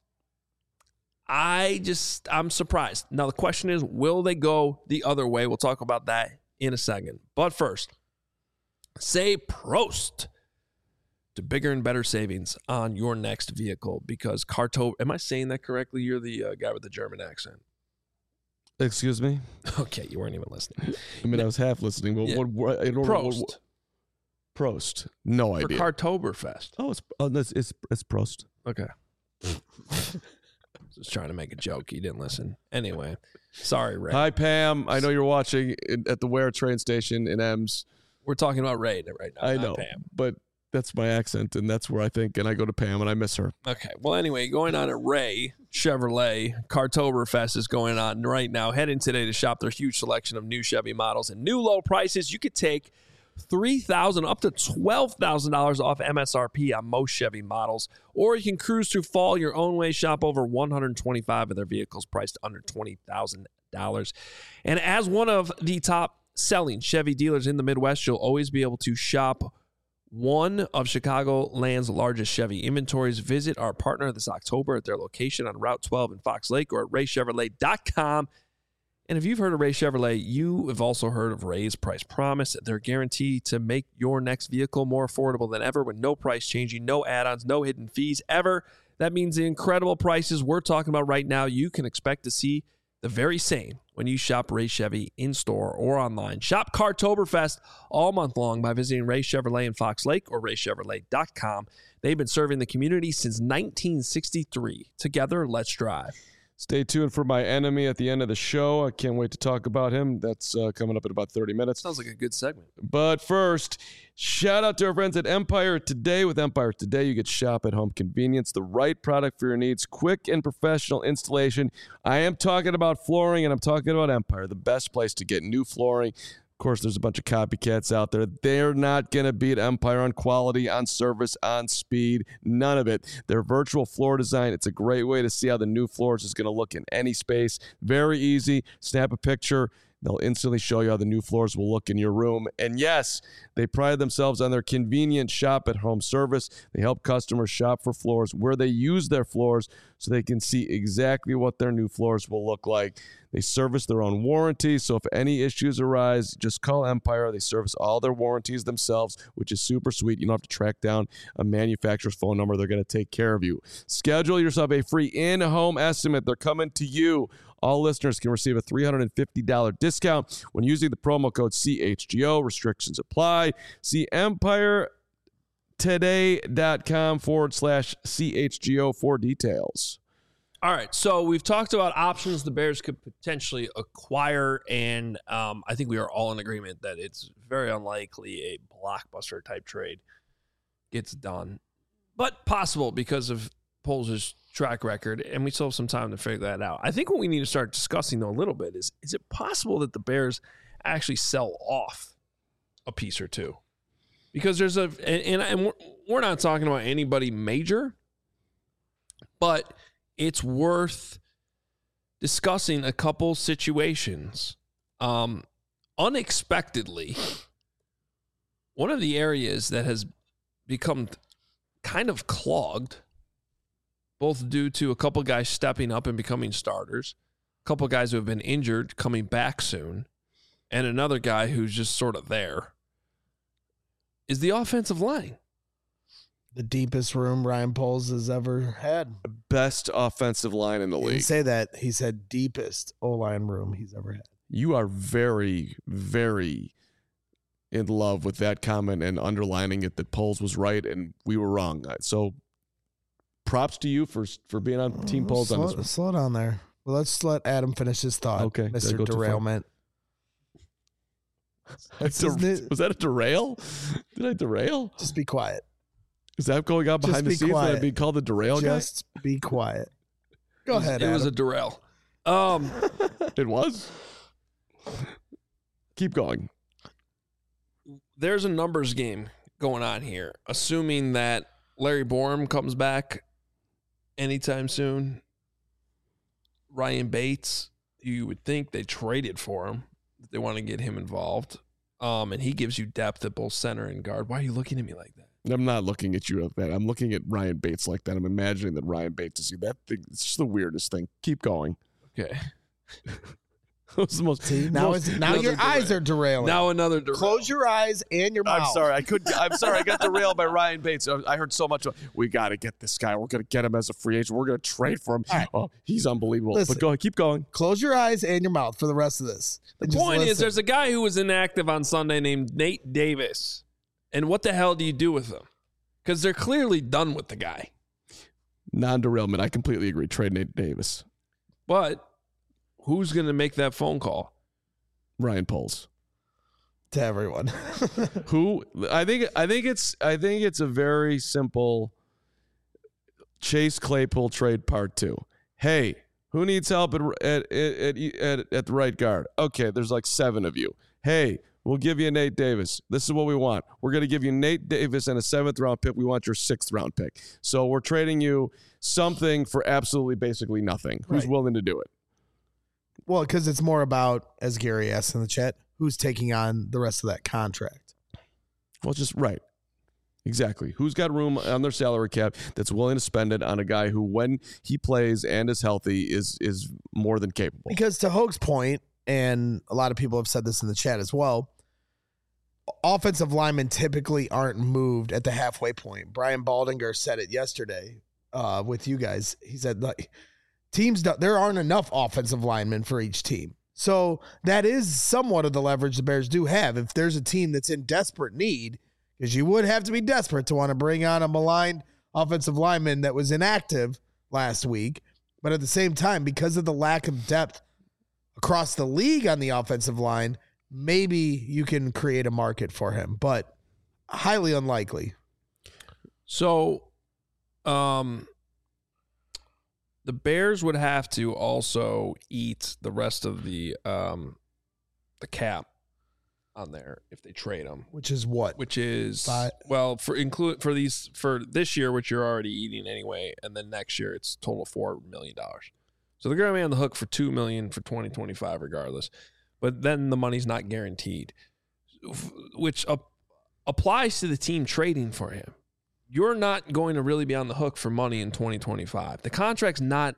I just, I'm surprised. Now, the question is, will they go the other way? We'll talk about that in a second. But first, say Prost to bigger and better savings on your next vehicle because Carto, am I saying that correctly? You're the uh, guy with the German accent.
Excuse me?
Okay, you weren't even listening.
I mean, I was half listening. But
Yeah.
what, what, I don't
Prost.
What, what, Prost. No
For
idea.
Cartoberfest.
oh, it's, oh it's, it's, it's Prost.
Okay. Just trying to make a joke. You didn't listen. Anyway, sorry, Ray.
Hi, Pam. I know you're watching in, at the Ware train station in Ems.
We're talking about Ray right now.
I
not
know,
Pam.
but that's my accent, and that's where I think, and I go to Pam, and I miss her.
Okay. Well, anyway, going on at Ray Chevrolet, Cartoberfest is going on right now. Head in today to shop their huge selection of new Chevy models and new low prices. You could take three thousand dollars up to twelve thousand dollars off M S R P on most Chevy models, or you can cruise through fall your own way. Shop over one hundred twenty-five of their vehicles priced under twenty thousand dollars. And as one of the top selling Chevy dealers in the Midwest, you'll always be able to shop one of Chicagoland's largest Chevy inventories. Visit our partner this October at their location on Route twelve in Fox Lake or at ray chevrolet dot com. And if you've heard of Ray Chevrolet, you have also heard of Ray's Price Promise. They're guaranteed to make your next vehicle more affordable than ever with no price changing, no add-ons, no hidden fees ever. That means the incredible prices we're talking about right now, you can expect to see the very same when you shop Ray Chevy in-store or online. Shop Cartoberfest all month long by visiting Ray Chevrolet in Fox Lake or ray chevrolet dot com. They've been serving the community since nineteen sixty-three. Together, let's drive.
Stay tuned for my enemy at the end of the show. I can't wait to talk about him. That's uh, coming up in about thirty minutes.
Sounds like a good segment.
But first, shout out to our friends at Empire Today. With Empire Today, you get shop at home convenience, the right product for your needs, quick and professional installation. I am talking about flooring, and I'm talking about Empire, the best place to get new flooring. Of course, there's a bunch of copycats out there. They're not going to beat Empire on quality, on service, on speed, none of it. Their virtual floor design, it's a great way to see how the new floors is going to look in any space. Very easy. Snap a picture. They'll instantly show you how the new floors will look in your room. And yes, they pride themselves on their convenient shop-at-home service. They help customers shop for floors where they use their floors so they can see exactly what their new floors will look like. They service their own warranty, so if any issues arise, just call Empire. They service all their warranties themselves, which is super sweet. You don't have to track down a manufacturer's phone number. They're going to take care of you. Schedule yourself a free in-home estimate. They're coming to you. All listeners can receive a three hundred fifty dollars discount when using the promo code C H G O. Restrictions apply. See empire today dot com forward slash C H G O for details.
All right, so we've talked about options the Bears could potentially acquire, and um, I think we are all in agreement that it's very unlikely a blockbuster type trade gets done, but possible because of Poles' track record, and we still have some time to figure that out. I think what we need to start discussing, though, a little bit is, is it possible that the Bears actually sell off a piece or two? Because there's a, and, and we're, we're not talking about anybody major, but it's worth discussing a couple situations. Um, unexpectedly, one of the areas that has become kind of clogged, both due to a couple guys stepping up and becoming starters, a couple guys who have been injured coming back soon, and another guy who's just sort of there, is the offensive line.
The deepest room Ryan Poles has ever had.
Best offensive line in the
He
league.
didn't say that. He said deepest O-line room he's ever had.
You are very, very in love with that comment and underlining it that Poles was right and we were wrong. So props to you for for being on Team
Oh,
Poles
slow,
on this one.
slow down there. Well, let's let Adam finish his thought.
Okay, did I
Mister
go too far?
Derailment.
That's
Isn't
a-
it-
was that a derail? Did I derail?
Just be quiet.
Is that going on
Just
behind the
be
scenes? That
quiet.
I'd be called the derail
Just be quiet. Go
It was-
ahead,
It
Adam.
was a derail. Um,
guy? It was? Keep going.
there's a numbers game going on here. Assuming that Larry Borum comes back anytime soon, Ryan Bates, you would think they traded for him. They want to get him involved. Um, and he gives you depth at both center and guard. Why are you looking at me like that?
I'm not looking at you like that. I'm looking at Ryan Bates like that. I'm imagining that Ryan Bates is that thing. It's just the weirdest thing. Keep going.
Okay.
That was the most.
See, now,
most-
it's, now
another
your eyes
derail.
are derailing.
Now another derail.
Close your eyes and your mouth.
I'm sorry. I could. I'm sorry. I got derailed by Ryan Bates. I I heard so much. We got to get this guy. We're going to get him as a free agent. We're going to trade for him.
All right.
Oh, he's unbelievable.
Listen.
But go ahead. Keep going.
Close your eyes and your mouth for the rest of this.
The
And just
point is,
listen.
there's a guy who was inactive on Sunday named Nate Davis. And what the hell do you do with him? Because they're clearly done with the guy.
Non-derailment. I completely agree. Trade Nate Davis.
But who's going to make that phone call?
Ryan Poles.
to everyone.
Who I think I think it's I think it's a very simple Chase Claypool trade part two. Hey, who needs help at at at at, at the right guard? Okay, there's like seven of you. Hey, we'll give you Nate Davis. This is what we want. We're going to give you Nate Davis and a seventh round pick. We want your sixth round pick. So we're trading you something for absolutely basically nothing. Who's
Right.
willing to do it?
Well, because it's more about, as Gary asked in the chat, who's taking on the rest of that contract.
Well, just right. Exactly. Who's got room on their salary cap that's willing to spend it on a guy who, when he plays and is healthy, is is more than capable?
Because to Hoag's point, and a lot of people have said this in the chat as well, offensive linemen typically aren't moved at the halfway point. Brian Baldinger said it yesterday uh, with you guys. He said, like, teams, don't, there aren't enough offensive linemen for each team. So that is somewhat of the leverage the Bears do have. If there's a team that's in desperate need, because you would have to be desperate to want to bring on a maligned offensive lineman that was inactive last week. But at the same time, because of the lack of depth across the league on the offensive line, maybe you can create a market for him, but highly unlikely.
So, um, the Bears would have to also eat the rest of the um, the cap on there if they trade him,
Which is what?
which is
Five.
well for include for these for this year, which you're already eating anyway, and then next year it's total four million dollars. So they're going to be on the hook for two million dollars for twenty twenty-five regardless. But then the money's not guaranteed, which up, applies to the team trading for him. You're not going to really be on the hook for money in twenty twenty-five. The contract's not,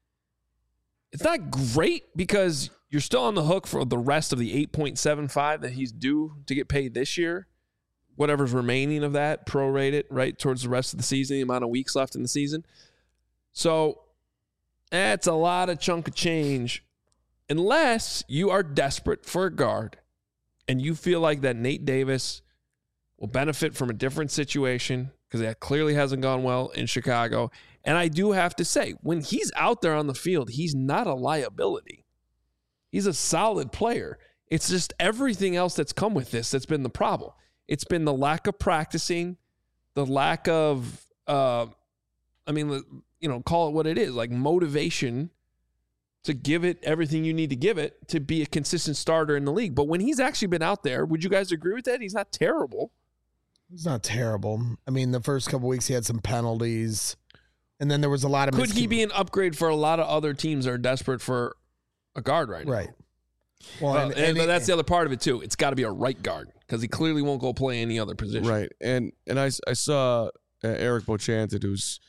it's not great because you're still on the hook for the rest of the eight point seven five that he's due to get paid this year. Whatever's remaining of that, prorate it, right, towards the rest of the season, the amount of weeks left in the season. So that's a lot of chunk of change unless you are desperate for a guard and you feel like that Nate Davis will benefit from a different situation because that clearly hasn't gone well in Chicago. And I do have to say, when he's out there on the field, he's not a liability. He's a solid player. It's just everything else that's come with this that's been the problem. It's been the lack of practicing, the lack of, uh, I mean, you know, call it what it is, like motivation to give it everything you need to give it to be a consistent starter in the league. But when he's actually been out there, would you guys agree with that? He's not terrible.
It's not terrible. I mean, the first couple weeks he had some penalties, and then there was a lot of
Could he
miscommun-
be an upgrade for a lot of other teams that are desperate for a guard right now?
right? Well,
Well,
and,
and,
and
but
he-
that's the other part of it too. It's got to be a right guard because he clearly won't go play any other position.
Right. And and I, I saw uh, Eric Bochanted, who's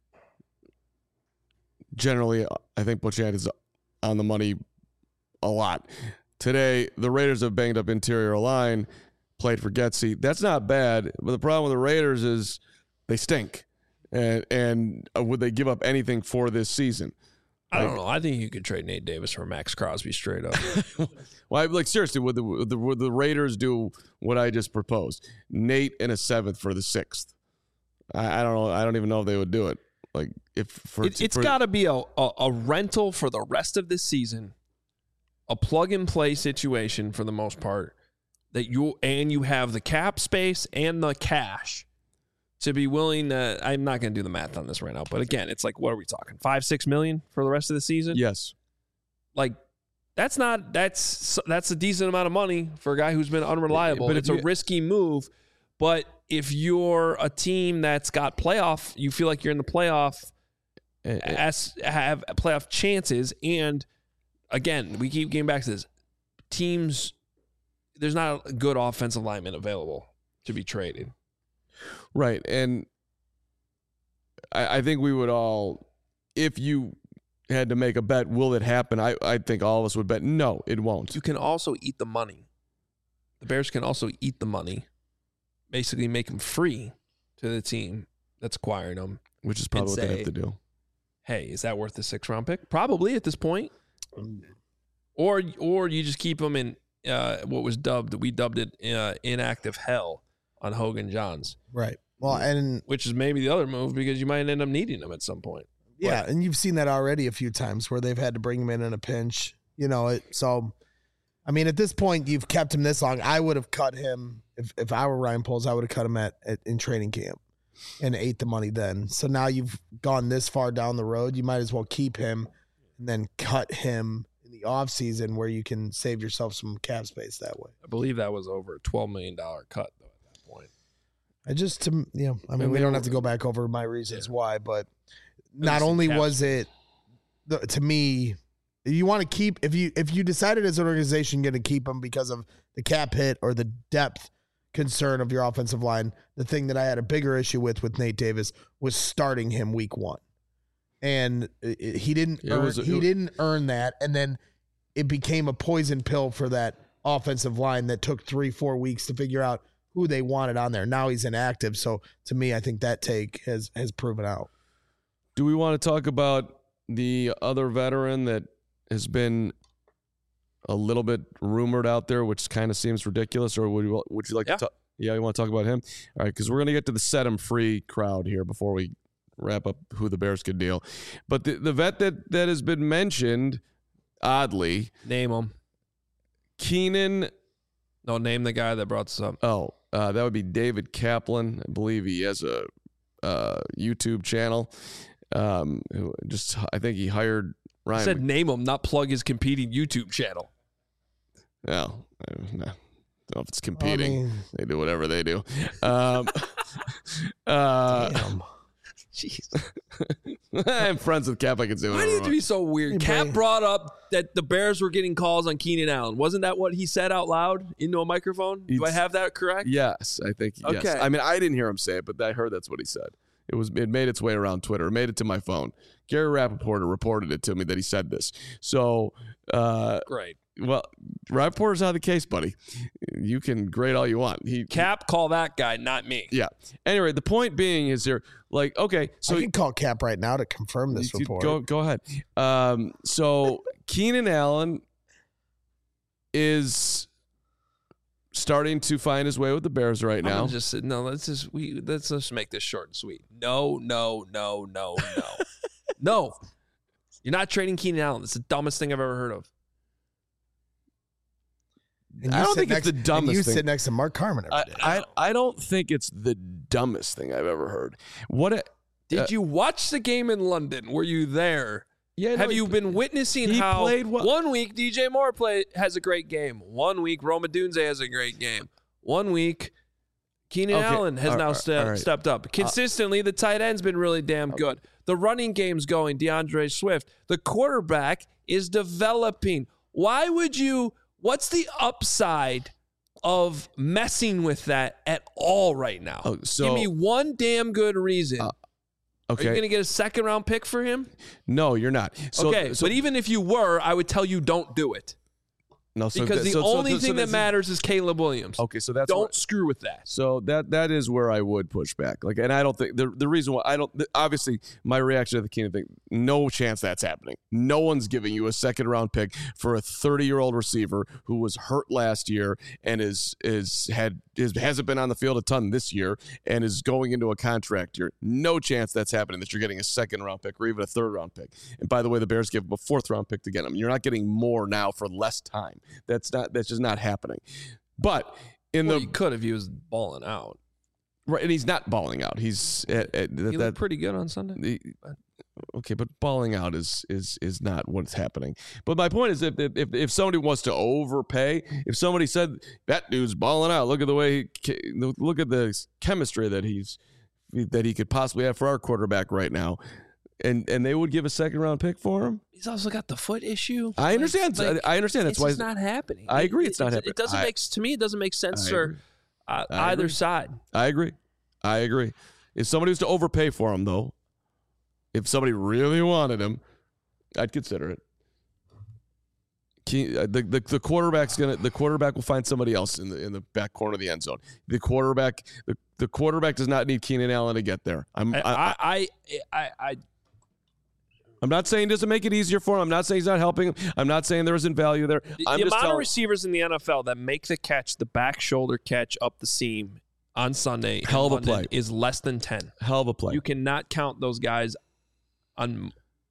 generally, I think Bochanted is on the money a lot. Today, the Raiders have banged up interior line, played for Getsy. That's not bad, but the problem with the Raiders is they stink. And, and would they give up anything for this season?
I don't know. I think you could trade Nate Davis for Max Crosby straight up.
Well, I, like seriously, would the, would the would the Raiders do what I just proposed? Nate and a seventh for the sixth. I, I don't know. I don't even know if they would do it. Like if for
it, it's got to be a, a a rental for the rest of this season, a plug and play situation for the most part. That you and you have the cap space and the cash to be willing to. I'm not going to do the math on this right now, but again, it's like, what are we talking? Five, six million for the rest of the season?
Yes.
Like that's not that's that's a decent amount of money for a guy who's been unreliable. But it's you, a risky move. But if you're a team that's got playoff, you feel like you're in the playoff, uh, as have playoff chances, and again, we keep getting back to this. Teams, there's not a good offensive lineman available to be traded.
Right. And I, I think we would all, if you had to make a bet, will it happen? I, I think all of us would bet, no, it won't.
You can also eat the money. The Bears can also eat the money, basically make them free to the team that's acquiring them.
Which is probably what
say,
they have to do.
Hey, is that worth the sixth round pick? Probably at this point. Or or you just keep them in uh, what was dubbed, we dubbed it uh, inactive hell on Hogan Johns.
Right. Well, and
which is maybe the other move because you might end up needing them at some point.
Yeah,
but,
and you've seen that already a few times where they've had to bring him in in a pinch. You know, it, so, I mean, at this point, you've kept him this long. I would have cut him, if, if I were Ryan Poles, I would have cut him at, at in training camp and ate the money then. So now you've gone this far down the road, you might as well keep him and then cut him in the offseason where you can save yourself some cap space that way.
I believe that was over a twelve million dollars cut, though, at that point.
I just, to, you know, I mean, we don't have to go back over my reasons yeah. why, but not only was it, to me, you want to keep, if you if you decided as an organization you're going to keep him because of the cap hit or the depth concern of your offensive line, the thing that I had a bigger issue with with Nate Davis was starting him week one. And it, he didn't earn, was, he didn't earn that, and then it became a poison pill for that offensive line that took three, four weeks to figure out who they wanted on there. Now he's inactive, so to me, I think that take has has proven out.
Do we want to talk about the other veteran that has been a little bit rumored out there, which kind of seems ridiculous, or would you would you like
yeah.
to talk? Yeah, you want to talk about him? All right, because we're going to get to the set him free crowd here before we wrap up who the Bears could deal. But the, the vet that, that has been mentioned, oddly.
Name him.
Keenan.
No, name the guy that brought this up.
Oh, uh, that would be David Kaplan. I believe he has a uh, YouTube channel. Um, who just I think he hired Ryan.
I said name him, not plug his competing YouTube channel.
No, no. I don't know if it's competing.
I mean,
they do whatever they do. Um, uh,
damn.
Jeez.
I'm friends with Cap. I can say
Why
whatever.
do you have to be so weird?
Hey,
Cap
Bray.
brought up that the Bears were getting calls on Keenan Allen. Wasn't that what he said out loud into a microphone? Do I have that correct?
Yes, I think. Yes.
Okay.
I mean, I didn't hear him say it, but I heard that's what he said. It was. It made its way around Twitter. It made it to my phone. Gary Rappaport reported it to me that he said this. So, uh,
Great.
Well, Rappaport's out of the case, buddy. You can grade all you want. He
Cap, call that guy, not me.
Yeah. Anyway, the point being is here, like, okay, so
I can call Cap right now to confirm this
you,
report.
Go, go ahead. Um, so Keenan Allen is starting to find his way with the Bears right now.
I'm just no. Let's just we let's just make this short and sweet. No, no, no, no, no, no. You're not trading Keenan Allen. It's the dumbest thing I've ever heard of.
And
I
you
don't
sit
think
next,
it's the dumbest
and you
thing.
sit next to Mark Carman every day.
I, I, I don't think it's the dumbest thing I've ever heard. What a,
Did
uh,
you watch the game in London? Were you there?
Yeah,
Have
no,
you
he-
been witnessing
he
how
played well.
one week D J Moore play has a great game, one week Roma Dunze has a great game, one week Keenan
Okay,
Allen has
all
now
right,
ste-
all right.
stepped up. Consistently, the tight end's been really damn good. The running game's going, DeAndre Swift. The quarterback is developing. Why would you, what's the upside of messing with that at all right now?
Oh, so-
Give me one damn good reason.
Uh,
Are you
okay.
going to get a second round pick for him?
No, you're not. So,
okay,
so
but even if you were, I would tell you don't do it.
No, so
because
that-
the
so- so-
only
so
thing that
that's-
matters is Caleb Williams.
Okay, so that's
Don't
where-
screw with that.
So that that is where I would push back. Like, and I don't think the the reason why I don't the, obviously my reaction to the Keenan thing, no chance that's happening. No one's giving you a second round pick for a thirty year old receiver who was hurt last year and is is had is hasn't been on the field a ton this year and is going into a contract year. No chance that's happening. That you're getting a second round pick or even a third round pick. And by the way, the Bears gave him a fourth round pick to get him. You're not getting more now for less time. That's not that's just not happening. But in
Well,
the
you could if he was balling out.
right, and he's not balling out. He's at, at,
He
that,
looked
that
pretty good on Sunday.
the, okay, but balling out is is is not what's happening. But my point is, if if if somebody wants to overpay, if somebody said that dude's balling out, look at the way he, look at the chemistry that he's that he could possibly have for our quarterback right now. And and they would give a second round pick for him.
He's also got the foot issue.
I understand.
Like,
I understand. That's
it's
why
just not happening.
I agree
It-
it's not
it,
happening.
It doesn't
I-
make to me. It doesn't make sense
I
for
agree.
uh,
I
either
agree.
side.
I agree. I agree. If somebody was to overpay for him, though, if somebody really wanted him, I'd consider it. Key- uh, The, the the quarterback's gonna the quarterback will find somebody else in the in the back corner of the end zone. The quarterback the, the quarterback does not need Keenan Allen to get there. I'm
I
I, I,
I I, I
I'm not saying it doesn't make it easier for him. I'm not saying he's not helping him. I'm not saying there isn't value there.
the,
I'm
the
just
amount of
telling.
receivers in the N F L that make the catch, the back shoulder catch up the seam on Sunday, in
Hell of a
London
play.
is less than ten.
Hell of a play.
You cannot count those guys on.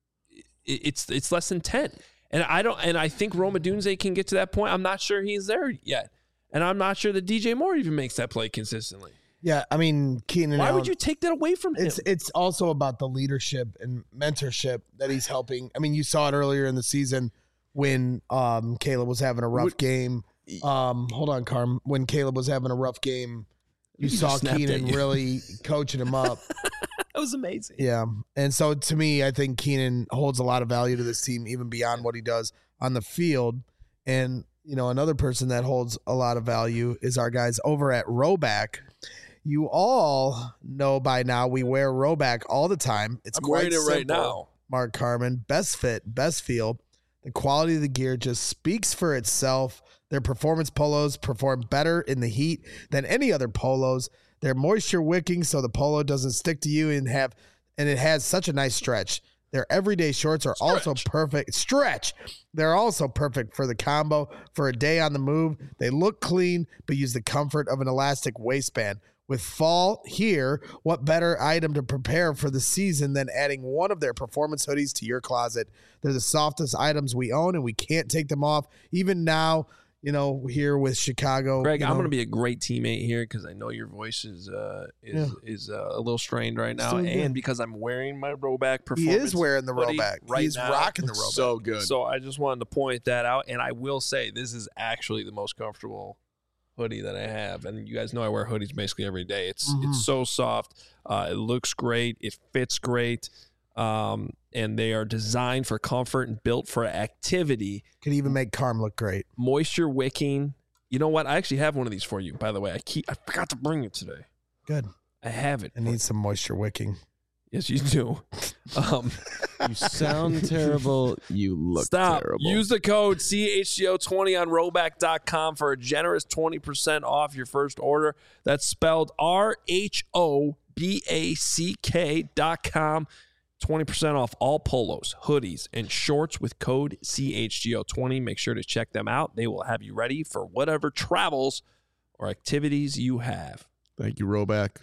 it- It's it's less than ten, and I don't. And I think Roma Dunze can get to that point. I'm not sure he's there yet, and I'm not sure that D J Moore even makes that play consistently.
Yeah, I mean, Keenan
Why
Allen,
would you take that away from him?
It's it's also about the leadership and mentorship that he's helping. I mean, you saw it earlier in the season when um, Caleb was having a rough
Would-
game. Um, hold on, Carm. When Caleb was having a rough game, you
He
saw
just snapped at
Keenan
you.
really coaching him up.
That was amazing.
Yeah, and so to me, I think Keenan holds a lot of value to this team, even beyond what he does on the field. And you know, another person that holds a lot of value is our guys over at Roback. You all know by now we wear Roback all the time. It's
I'm
quite
wearing it right
simple,
now.
Mark Carman, best fit, best feel. The quality of the gear just speaks for itself. Their performance polos perform better in the heat than any other polos. They're moisture wicking, so the polo doesn't stick to you and have, and it has such a nice stretch. Their everyday shorts are also perfect. Stretch. They're also perfect for the combo for a day on the move. They look clean, but use the comfort of an elastic waistband. With fall here, what better item to prepare for the season than adding one of their performance hoodies to your closet? They're the softest items we own, and we can't take them off. Even now, you know, here with Chicago.
Greg,
you
I'm
know,
going to be a great teammate here because I know your voice is uh, is
Yeah.
is uh, a little strained right now,
Still good.
and because I'm wearing my Roback
He
performance.
is wearing the
hoodie
Roback.
right
He's
now.
rocking the Roback.
So good.
So I just wanted to point that out, and I will say this is actually the most comfortable hoodie that I have, and you guys know I wear hoodies basically every day. It's
Mhm.
it's so soft, uh, it looks great, it fits great, um, and they are designed for comfort and built for activity.
Could even make Carm look great.
Moisture wicking. You know what? I actually have one of these for you, by the way. I keep I forgot to bring it today.
Good.
I have it.
It needs some moisture wicking.
Yes, you do. Um,
You sound terrible. You look
Stop.
terrible.
Use the code C H G O twenty on roback dot com for a generous twenty percent off your first order. That's spelled R H O B A C K dot com. twenty percent off all polos, hoodies, and shorts with code C H G O twenty. Make sure to check them out. They will have you ready for whatever travels or activities you have.
Thank you, Roback.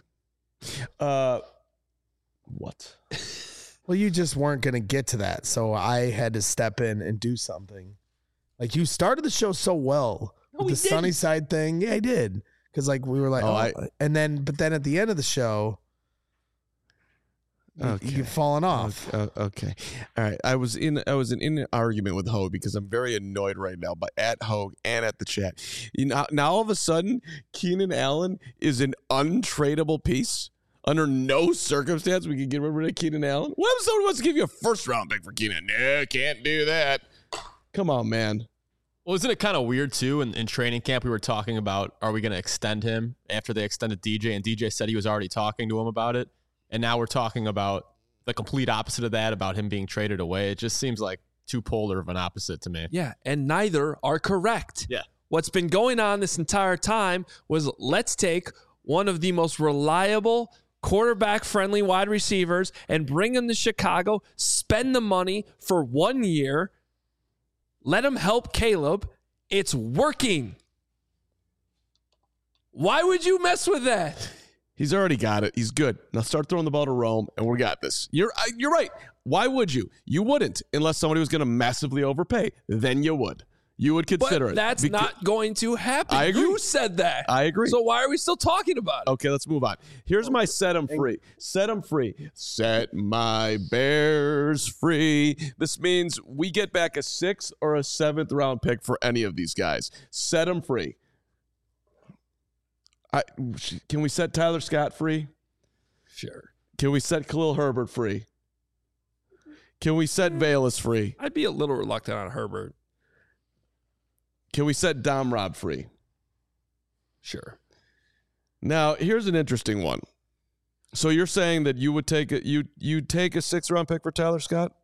Uh, what?
Well, you just weren't going to get to that, so I had to step in and do something. Like, you started the show so well
No,
with
we
the sunny
didn't.
side thing. Yeah, I did. Because, like, we were like,
Oh,
oh,
I-
and then, but then at the end of the show, you,
Okay.
you've fallen off.
Uh, okay. All right. I was in I was in, in an argument with Hogue because I'm very annoyed right now by at Hogue and at the chat. You know, now all of a sudden, Keenan Allen is an untradeable piece. Under no circumstance we can get rid of Keenan Allen. What if someone wants to give you a first round pick for Keenan? No, can't do that. Come on, man.
Well, isn't it kind of weird too? In, in training camp, we were talking about, are we going to extend him after they extended D J? And D J said he was already talking to him about it. And now we're talking about the complete opposite of that, about him being traded away. It just seems like too polar of an opposite to me.
Yeah, and neither are correct.
Yeah.
What's been going on this entire time was let's take one of the most reliable quarterback-friendly wide receivers and bring him to Chicago, spend the money for one year, let him help Caleb. It's working. Why would you mess with that?
He's already got it. He's good. Now start throwing the ball to Rome, and we got this. You're you're right. Why would you? You wouldn't unless somebody was going to massively overpay. Then you would. You would consider
but
it.
That's
Beca-
not going to happen.
I agree.
You said that.
I agree.
So why are we still talking about it?
Okay, let's move on. Here's my set them free. Set them free. Set my Bears free. This means we get back a sixth or a seventh round pick for any of these guys. Set them free. I, can we set Tyler Scott free?
Sure.
Can we set Khalil Herbert free? Can we set Valus free?
I'd be a little reluctant on Herbert.
Can we set Dom Rob free?
Sure.
Now, here's an interesting one. So you're saying that you would take a you you'd take a sixth round pick for Tyler Scott?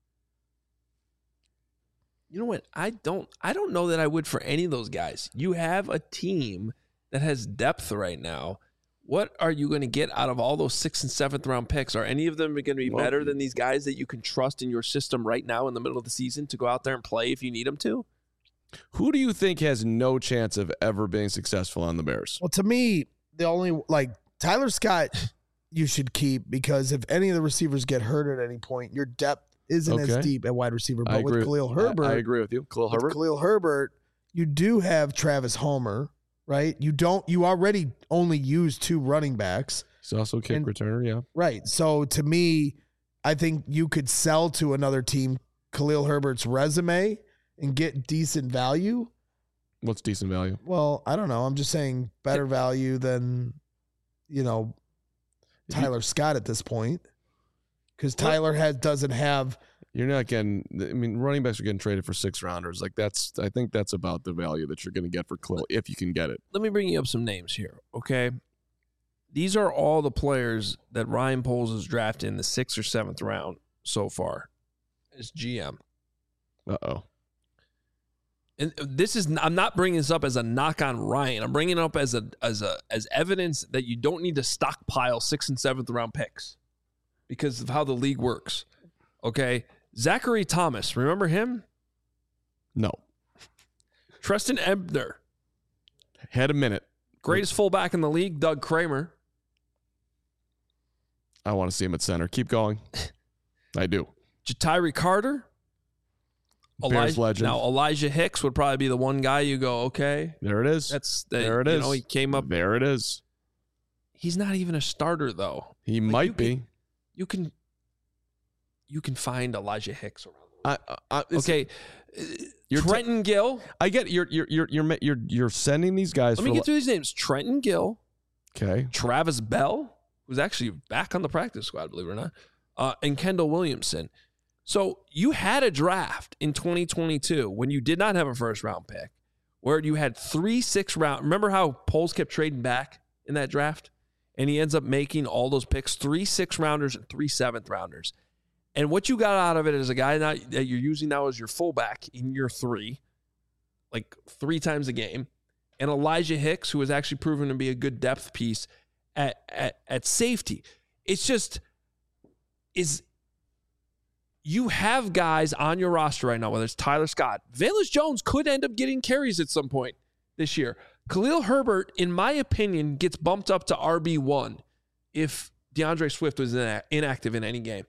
You know what? I don't I don't know that I would for any of those guys. You have a team that has depth right now. What are you going to get out of all those sixth and seventh round picks? Are any of them going to be
Well,
better than these guys that you can trust in your system right now in the middle of the season to go out there and play if you need them to?
Who do you think has no chance of ever being successful on the Bears?
Well, to me, the only like Tyler Scott, you should keep because if any of the receivers get hurt at any point, your depth isn't
Okay.
as deep at wide receiver.
I
But with
agree.
Khalil
I-
Herbert,
I, agree with you. Khalil
with
Herbert.
Khalil Herbert, you do have Travis Homer, right? You don't. You already only use two running backs,
He's also a kick
And-
returner, yeah.
right? So to me, I think you could sell to another team Khalil Herbert's resume and get decent value.
What's decent value?
Well, I don't know. I'm just saying better value than, you know,
If you-
Tyler Scott at this point. Because Tyler has doesn't have
You're not getting. I mean, running backs are getting traded for six rounders. Like that's. I think that's about the value that you're going to get for Khalil if you can get it.
Let me bring you up some names here, okay? These are all the players that Ryan Poles has drafted in the sixth or seventh round so far as G M.
Uh oh.
And this is I'm not bringing this up as a knock on Ryan. I'm bringing it up as a as a as evidence that you don't need to stockpile sixth and seventh round picks because of how the league works. Okay, Zachary Thomas, remember him?
No.
Treston Ebner,
Had a minute.
greatest fullback in the league. Doug Kramer.
I want to see him at center. Keep going. I do.
Jatiri Carter.
Bears
Elijah,
legend.
Now Elijah Hicks would probably be the one guy you go, okay,
There it is.
that's the,
there it
you
is.
know, he came up.
There it is.
He's not even a starter though.
He
Like,
might
you
be.
can- You can you can find Elijah Hicks around.
I, I, I, it's-
Okay,
You're t-
Trenton Gill.
I get you're you're you're you're you're you're sending these guys.
Let me
for
get through these names: Trenton Gill,
Okay.
Travis Bell, who's actually back on the practice squad, believe it or not, uh, and Kendall Williamson. So you had a draft in twenty twenty-two when you did not have a first round pick, where you had three six round. Remember how Poles kept trading back in that draft, and he ends up making all those picks: three six rounders and three seventh rounders. And what you got out of it is a guy now that you're using now as your fullback in year three, like three times a game, and Elijah Hicks, who has actually proven to be a good depth piece at at, at safety. It's just is you have guys on your roster right now, whether it's Tyler Scott, Velus Jones could end up getting carries at some point this year. Khalil Herbert, in my opinion, gets bumped up to R B one if DeAndre Swift was ina- inactive in any game.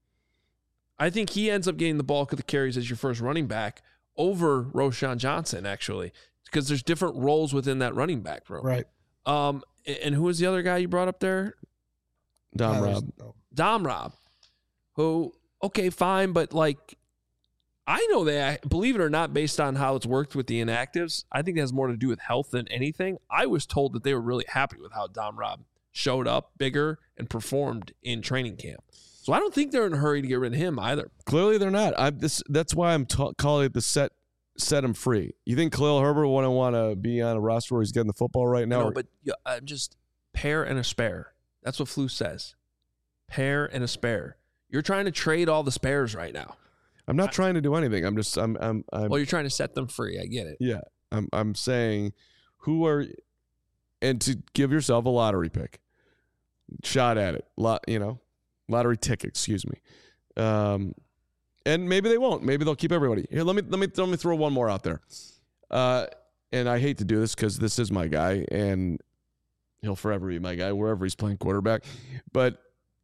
I think he ends up getting the bulk of the carries as your first running back over Roshan Johnson, actually, because there's different roles within that running back room.
right.
Um, and who was the other guy you brought up there?
Dom
Tyler's-
Rob.
no.
Dom Rob, who, okay, fine, but like, I know that, believe it or not, based on how it's worked with the inactives, I think it has more to do with health than anything. I was told that they were really happy with how Dom Rob showed up bigger and performed in training camp. So I don't think they're in a hurry to get rid of him either.
Clearly, they're not. I this that's why I'm ta- calling it the set set him free. You think Khalil Herbert wouldn't want to be on a roster where he's getting the football right now?
No, but yeah, I'm just pair and a spare. That's what Flu says. Pair and a spare. You're trying to trade all the spares right now.
I'm not trying to do anything. I'm just I'm I'm, I'm
Well, you're trying to set them free. I get it.
yeah. I'm I'm saying who are and to give yourself a lottery pick. Shot at it. Lot, you know, lottery ticket, excuse me. Um and maybe they won't. Maybe they'll keep everybody. Here, let me let me let me throw one more out there. Uh and I hate to do this cuz this is my guy and he'll forever be my guy wherever he's playing quarterback. But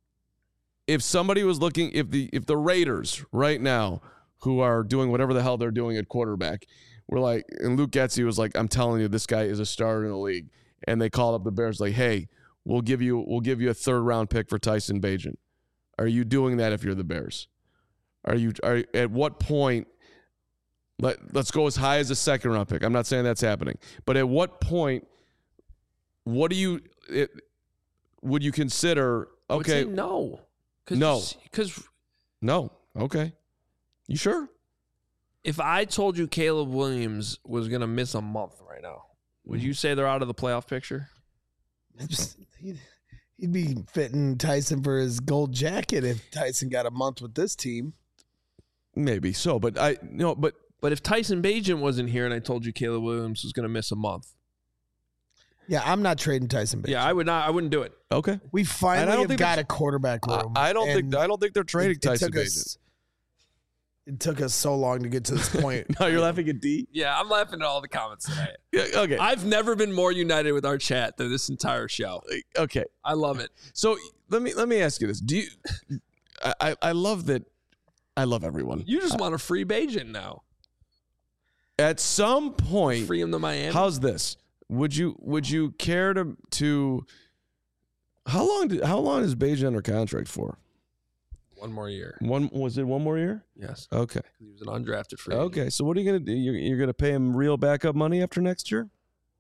if somebody was looking if the if the Raiders right now who are doing whatever the hell they're doing at quarterback were like, and Luke Getsy was like, I'm telling you, this guy is a starter in the league. And they called up the Bears like, hey, we'll give you we'll give you a third round pick for Tyson Bagent. Are you doing that if you're the Bears? Are you are at what point let, let's go as high as a second round pick. I'm not saying that's happening. But at what point what do you it, would you consider
I would
okay
say no. Cause,
No.
Because
no. Okay. You sure?
if I told you Caleb Williams was going to miss a month right now, would you say they're out of the playoff picture?
Just, he'd, he'd be fitting Tyson for his gold jacket if Tyson got a month with this team.
Maybe so, but I no, but
But if Tyson Bagent wasn't here and I told you Caleb Williams was going to miss a month,
Yeah, I'm not trading Tyson Bagent.
yeah, I would not. I wouldn't do it.
okay.
We
And I
finally
don't
have
think
got
that's-
a quarterback
I,
room.
I don't
and
think I don't think they're trading
it, it
Tyson
took
Bagent.
us, It took us so long to get to this point.
No, you're laughing at D.
Yeah, I'm laughing at all the comments today.
Yeah, okay,
I've never been more united with our chat than this entire show.
okay.
I love it.
So let me let me ask you this: Do you? I I, I love that. I love everyone.
You just want a free Bagent now.
At some point,
Free him to Miami.
how's this? Would you would you care to to? How long did how long is Bagent under contract for?
One more year.
One was it one more year?
Yes.
Okay.
He was an undrafted free agent.
Okay. So what are you gonna do? You're, you're gonna pay him real backup money after next year?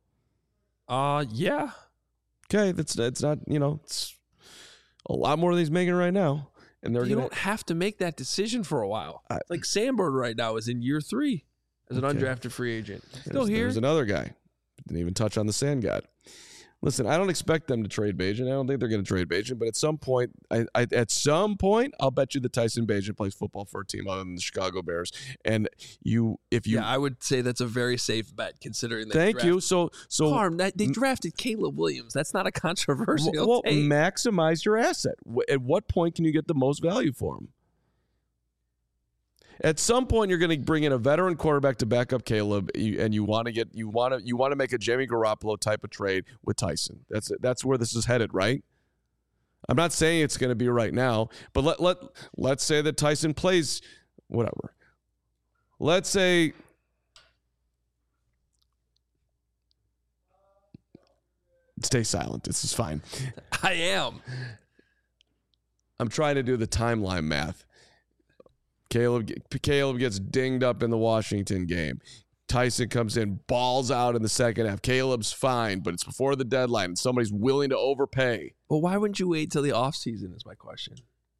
Uh, yeah.
Okay, that's that's not you know it's a lot more than he's making right now, and they're
You
gonna.
don't have to make that decision for a while.
I-
like Sandberg right now is in year three as an
Okay.
undrafted free agent. Still
There's,
here.
there's another guy. Didn't even touch on the Sand God. Listen, I don't expect them to trade Bagent. I don't think they're going to trade Bagent, but at some point, I, I at some point, I'll bet you that Tyson Bagent plays football for a team other than the Chicago Bears. And you, if you,
yeah, I would say that's a very safe bet considering. They
thank you.
drafted-
So, so
Harm, that, they drafted Caleb Williams. That's not a controversial
well, well,
take.
maximize your asset. Wh- At what point can you get the most value for him? At some point, you're going to bring in a veteran quarterback to back up Caleb, you- and you want to get you want to you want to make a Jimmy Garoppolo type of trade with Tyson. That's that's where this is headed, right? I'm not saying it's going to be right now, but let let let's say that Tyson plays whatever. Let's say stay silent. This is fine.
I am.
I'm trying to do the timeline math. Caleb Caleb gets dinged up in the Washington game. Tyson comes in, balls out in the second half. Caleb's fine, but it's before the deadline, and somebody's willing to overpay
Well, why wouldn't you wait till the offseason is my question.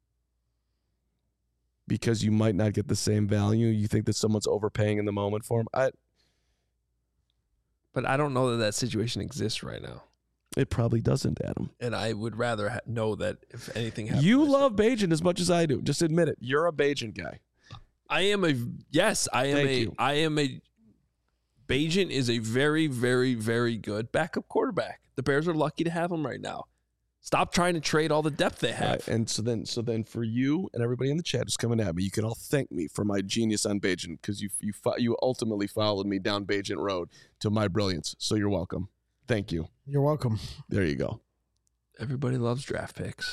because you might not get the same value. You think that someone's overpaying in the moment for him. I,
But I don't know that that situation exists right now.
it probably doesn't, Adam.
And I would rather ha- know that if anything happens.
You love Bagent as much as I do. Just admit it. You're a Bagent guy.
I am a yes. I am
Thank
a.
you.
I am a. Bagent is a very, very, very good backup quarterback. The Bears are lucky to have him right now. Stop trying to trade all the depth they have.
Right, and so then, so then, for you and everybody in the chat who's coming at me, you can all thank me for my genius on Bagent because you you fo- you ultimately followed me down Bagent Road to my brilliance. So you're welcome. Thank you.
You're welcome.
There you go.
Everybody loves draft picks.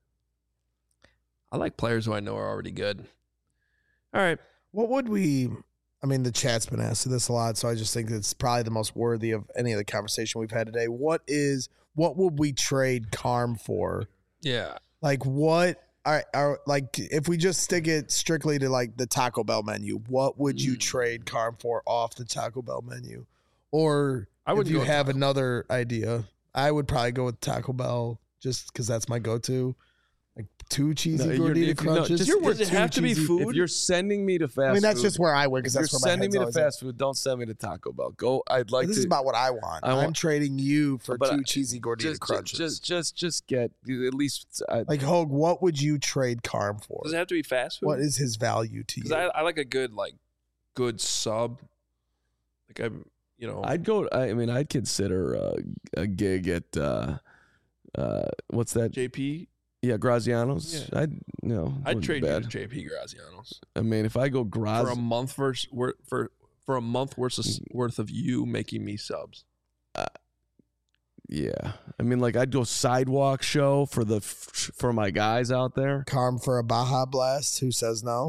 I like players who I know are already good. All right.
What would we? I mean, the chat's been asked this a lot, so I just think it's probably the most worthy of any of the conversation we've had today. What is? What would we trade Carm for?
Yeah.
Like what? Are, are like if we just stick it strictly to like the Taco Bell menu, what would you
Mm.
trade Carm for off the Taco Bell menu? Or
I
if
wouldn't
you
go with
have
Taco.
another idea, I would probably go with Taco Bell just because that's my go-to. Like two cheesy
No, you're-
gordita
if you- no,
crunches.
just-
You're
does
with
it have
two
to be
cheesy-
food?
If you're sending me to fast
I mean, that's
food,
just where I went because
if
that's
you're
where my
sending me
head's
to
always
fast food, don't send me to Taco Bell. Go. I'd like
at. This
to.
is about what I want.
I
I'm
want-
trading you for
But
two
I-
cheesy gordita
just,
crunches.
just, just, just get at least. Uh,
like Hogue, what would you trade Carm for?
Does it have to be fast food?
What is his value to
Because
you?
I, I like a good like good sub. Like I, you know,
I'd go. I mean, I'd consider uh, a gig at. Uh, uh, what's that?
J P.
Yeah, Graziano's.
Yeah.
I'd. You know.
I'd
wouldn't be
trade you to
bad.
J P Graziano's
I mean, if I go
for
Graz,
a month versus wor- for for a month worth of, worth of you making me subs.
yeah. I mean, like I'd go sidewalk show for the f- for my guys out there.
Carm for a Baja Blast? Who says no?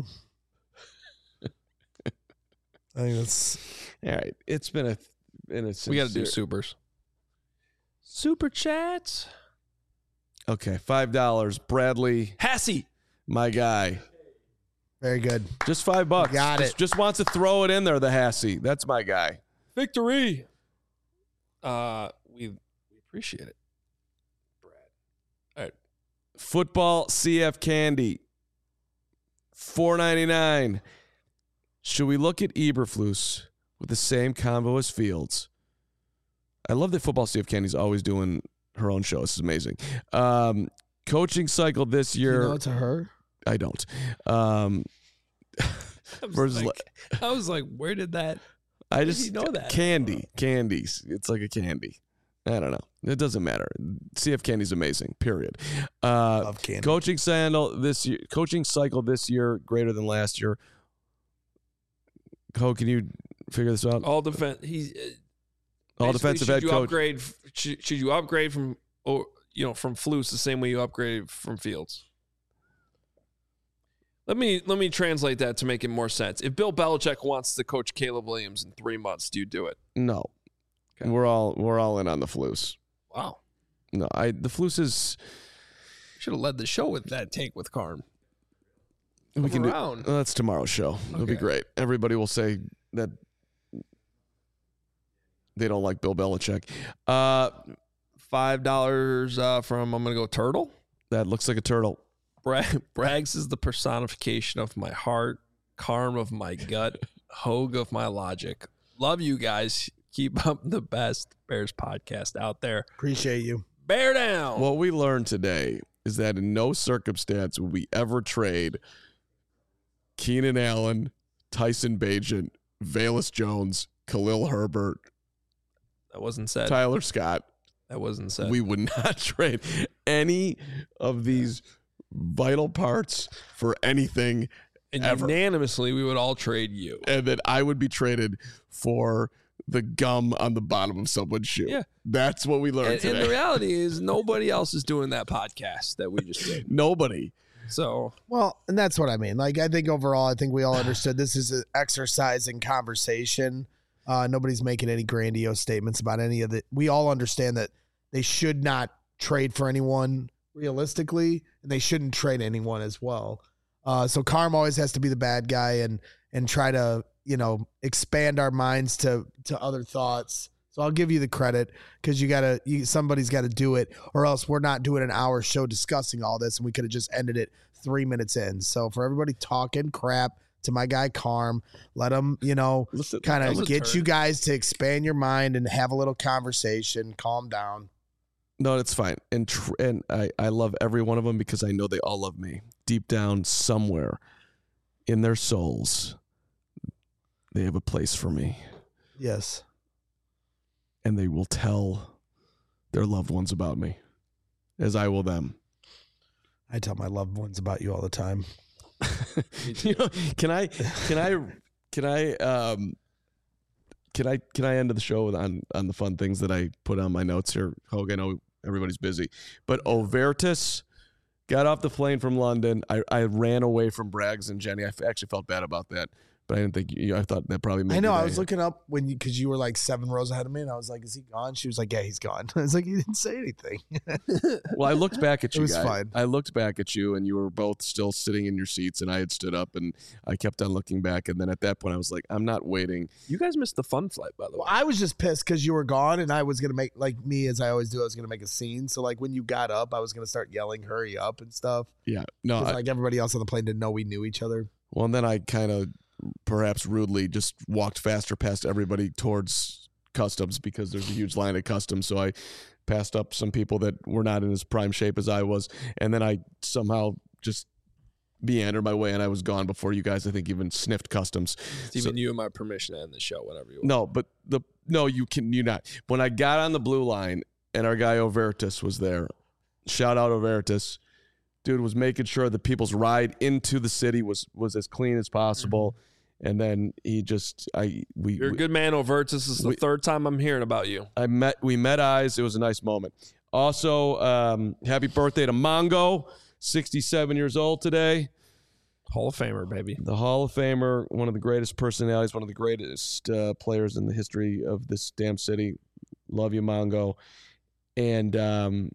I think that's
All right, it's been a. Been a
We got to do
sincere-
supers. Super chats.
Okay, five dollars. Bradley,
Hassie.
my guy.
very good.
Just five bucks.
Got
just,
it.
Just wants to throw it in there. The Hassie. That's my guy.
Victory. Uh, we we appreciate it, Brad. All right.
Football C F candy. four ninety-nine. Should we look at Eberflus with the same combo as Fields? I love that Football C F Candy's always doing her own show. This is amazing. Um, coaching cycle this
Do you
year.
know it's a her?
I don't. Um,
I was,
Versus
like, I was like, where did that?
I
did
just
you know that?
candy, candies. It's like a candy. I don't know. It doesn't matter. C F Candy's amazing. Period. Uh,
Love candy.
coaching cycle this year. Coaching cycle this year greater than last year. Ho, can you figure this out?
All defense. He's uh,
All
basically,
defensive
should
head
you
coach.
Upgrade? Should, should you upgrade from or you know from Flus the same way you upgrade from Fields? Let me let me translate that to make it more sense. If Bill Belichick wants to coach Caleb Williams in three months, do you do it?
No,
Okay.
we're all we're all in on the Flus.
Wow.
No, I the Flus is
Should have led the show with that take with Carm.
we
Come
can do.
around.
Well, that's tomorrow's show. It'll be
Okay.
great. Everybody will say that they don't like Bill Belichick. Uh,
Five dollars uh, from I'm gonna go Turtle.
that looks like a turtle.
Brag, Braggs is the personification of my heart, Carm of my gut, Hogue of my logic. Love you guys. Keep up the best Bears podcast out there.
Appreciate you.
Bear down.
What we learned today is that in no circumstance would we ever trade Keenan Allen, Tyson Bagent, Valus Jones, Khalil Herbert,
that wasn't said.
Tyler Scott.
That wasn't said.
We would not trade any of these vital parts for anything,
and
ever.
unanimously, we would all trade you.
and that I would be traded for the gum on the bottom of someone's shoe.
Yeah.
That's what we learned
And,
today.
and the reality is, nobody else is doing that podcast that we just did.
Nobody.
So
Well, and that's what I mean. Like, I think overall, I think we all understood this is an exercise in conversation. Uh, nobody's making any grandiose statements about any of it. We all understand that they should not trade for anyone realistically, and they shouldn't trade anyone as well. Uh, so Carm always has to be the bad guy and and try to, you know, expand our minds to to other thoughts. So I'll give you the credit because you gotta, you, somebody's got to do it, or else we're not doing an hour show discussing all this, and we could have just ended it three minutes in. So for everybody talking crap to my guy Carm, let him, you know,
Listen,
kind
that was
of
a
get
turn.
you guys to expand your mind and have a little conversation. Calm down.
No, it's fine. And tr- and I, I love every one of them because I know they all love me. Deep down somewhere in their souls, they have a place for me.
Yes.
And they will tell their loved ones about me, as I will them.
I tell my loved ones about you all the time.
You know, can I can I can I um can I can I end the show with on on the fun things that I put on my notes here? Hogan, I know everybody's busy, but Overtus got off the plane from London. I, I ran away from Braggs and Jenny. I f- actually felt bad about that but I didn't think you. I thought that probably. Made
I know.
your
I
day.
was looking up when you because you were like seven rows ahead of me, and I was like, "Is he gone?" She was like, "Yeah, he's gone." I was like, "You didn't say anything."
Well, I looked back at
It
you
was
guys.
fine.
I looked back at you, and you were both still sitting in your seats, and I had stood up, and I kept on looking back, and then at that point, I was like, "I'm not waiting."
You guys missed the fun flight, by the way.
Well, I was just pissed because you were gone, and I was gonna make like me as I always do. I was gonna make a scene. So like when you got up, I was gonna start yelling, "Hurry up!" and stuff.
Yeah, no.
'Cause,
I,
like everybody else on the plane didn't know we knew each other.
well, and then I kind of, perhaps rudely, just walked faster past everybody towards customs because there's a huge line at customs. So I passed up some people that were not in as prime shape as I was, and then I somehow just meandered my way, and I was gone before you guys, I think, even sniffed customs.
It's even you and my permission to end the show whenever you want.
No, but the no, you can you not. When I got on the blue line and our guy Overtus was there, shout out Overtus, dude was making sure that people's ride into the city was was as clean as possible. Mm-hmm. And then he just I we
You're a
we,
good man, Overtus. This is the
we,
third time I'm hearing about you.
I met we met eyes. It was a nice moment. Also, um, happy birthday to Mongo, sixty-seven years old today.
Hall of Famer, baby.
The Hall of Famer, one of the greatest personalities, one of the greatest uh, players in the history of this damn city. Love you, Mongo. And um,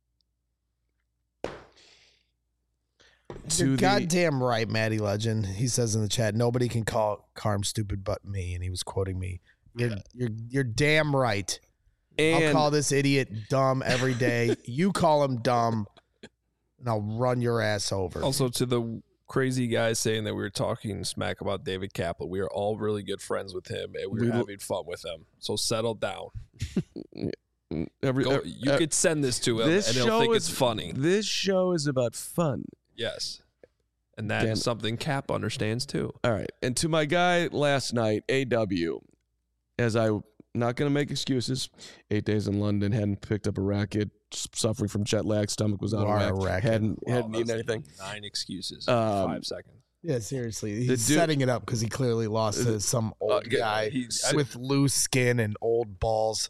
You're
to the,
goddamn right, Maddie Legend. He says in the chat, nobody can call Carm stupid but me, and he was quoting me. You're
Yeah.
you're you're damn right.
and
I'll call this idiot dumb every day. You call him dumb, and I'll run your ass over.
Also, to the crazy guys saying that we were talking smack about David Kaplan, we are all really good friends with him, and we were
We-
having fun with him. So settle down.
every,
Go,
every-
you could send this to him,
this
and he'll
show
think
is
it's funny.
This show is about fun.
Yes. And that is
Damn.
something Cap understands too.
All right. And to my guy last night, A W, as I not going to make excuses, eight days in London, hadn't picked up a racket, suffering from jet lag, stomach was out
You
of
are a
whack,
racket.
hadn't,
Wow,
hadn't eaten
that's
anything.
Nine excuses in
Um,
five seconds.
Yeah, seriously.
The
He's
dude-
setting it up because he clearly lost to some old
yeah,
guy
he's-
with loose skin and old balls.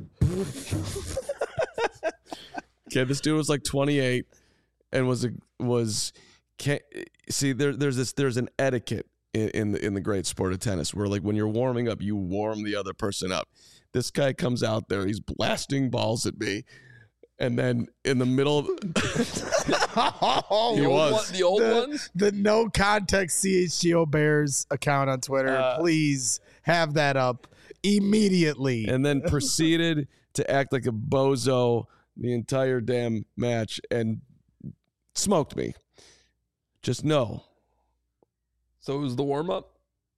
Okay, this dude was like twenty-eight and was a, was can't see there there's this there's an etiquette in, in the in the great sport of tennis where like when you're warming up you warm the other person up. This guy comes out there, he's blasting balls at me, and then in the middle of
Oh,
He
the, old
was.
one- the old
the,
ones?
the no context C H G O Bears account on Twitter.
Uh,
Please have that up immediately.
and then proceeded to act like a bozo the entire damn match and smoked me. Just know.
So it was the warm up?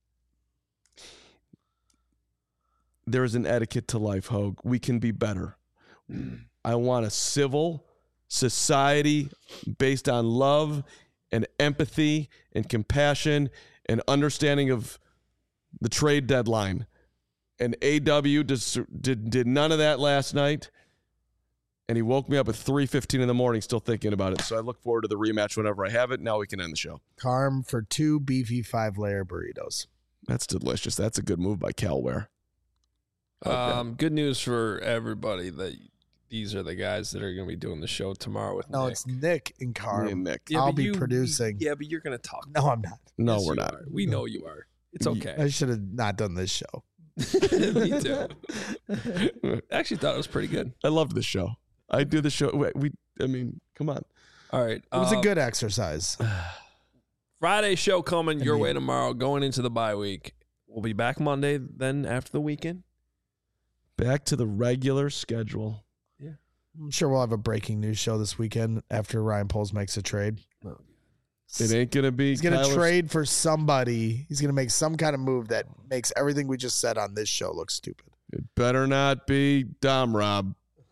There is an etiquette to life, Hogue. We can be better. I want a civil society based on love and empathy and compassion and understanding of the trade deadline. And A W dis- did, did none of that last night. And he woke me up at three fifteen in the morning still thinking about it. So I look forward to the rematch whenever I have it. Now we can end the show.
Carm for two beefy five layer burritos.
That's delicious. That's a good move by Calware. Okay.
Um, good news for everybody that these are the guys that are going to be doing the show tomorrow with
No,
Nick.
it's Nick and
Me
Carm.
and Nick.
I'll
but
be
you-
producing.
Yeah, but you're going to talk.
No, I'm not.
No,
Yes,
we're
you
not.
are. We know you are. It's okay.
I should have not done this show.
Me too. I actually thought it was pretty good.
I love this show. I do the show. We, we I mean, come on.
All right.
It was a
um,
good exercise.
Friday show coming
I
your
mean-
way tomorrow, going into the bye week. We'll be back Monday, then after the weekend.
Back to the regular schedule.
I'm sure we'll have a breaking news show this weekend after Ryan Poles makes a trade.
It ain't gonna be.
He's going to
Kyler-
trade for somebody. He's going to make some kind of move that makes everything we just said on this show look stupid.
It better not be Dom Rob.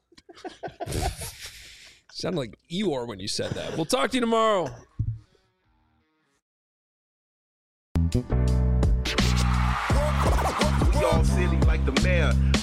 Sounded like Eeyore when you said that. We'll talk to you tomorrow.
We all silly like the mayor.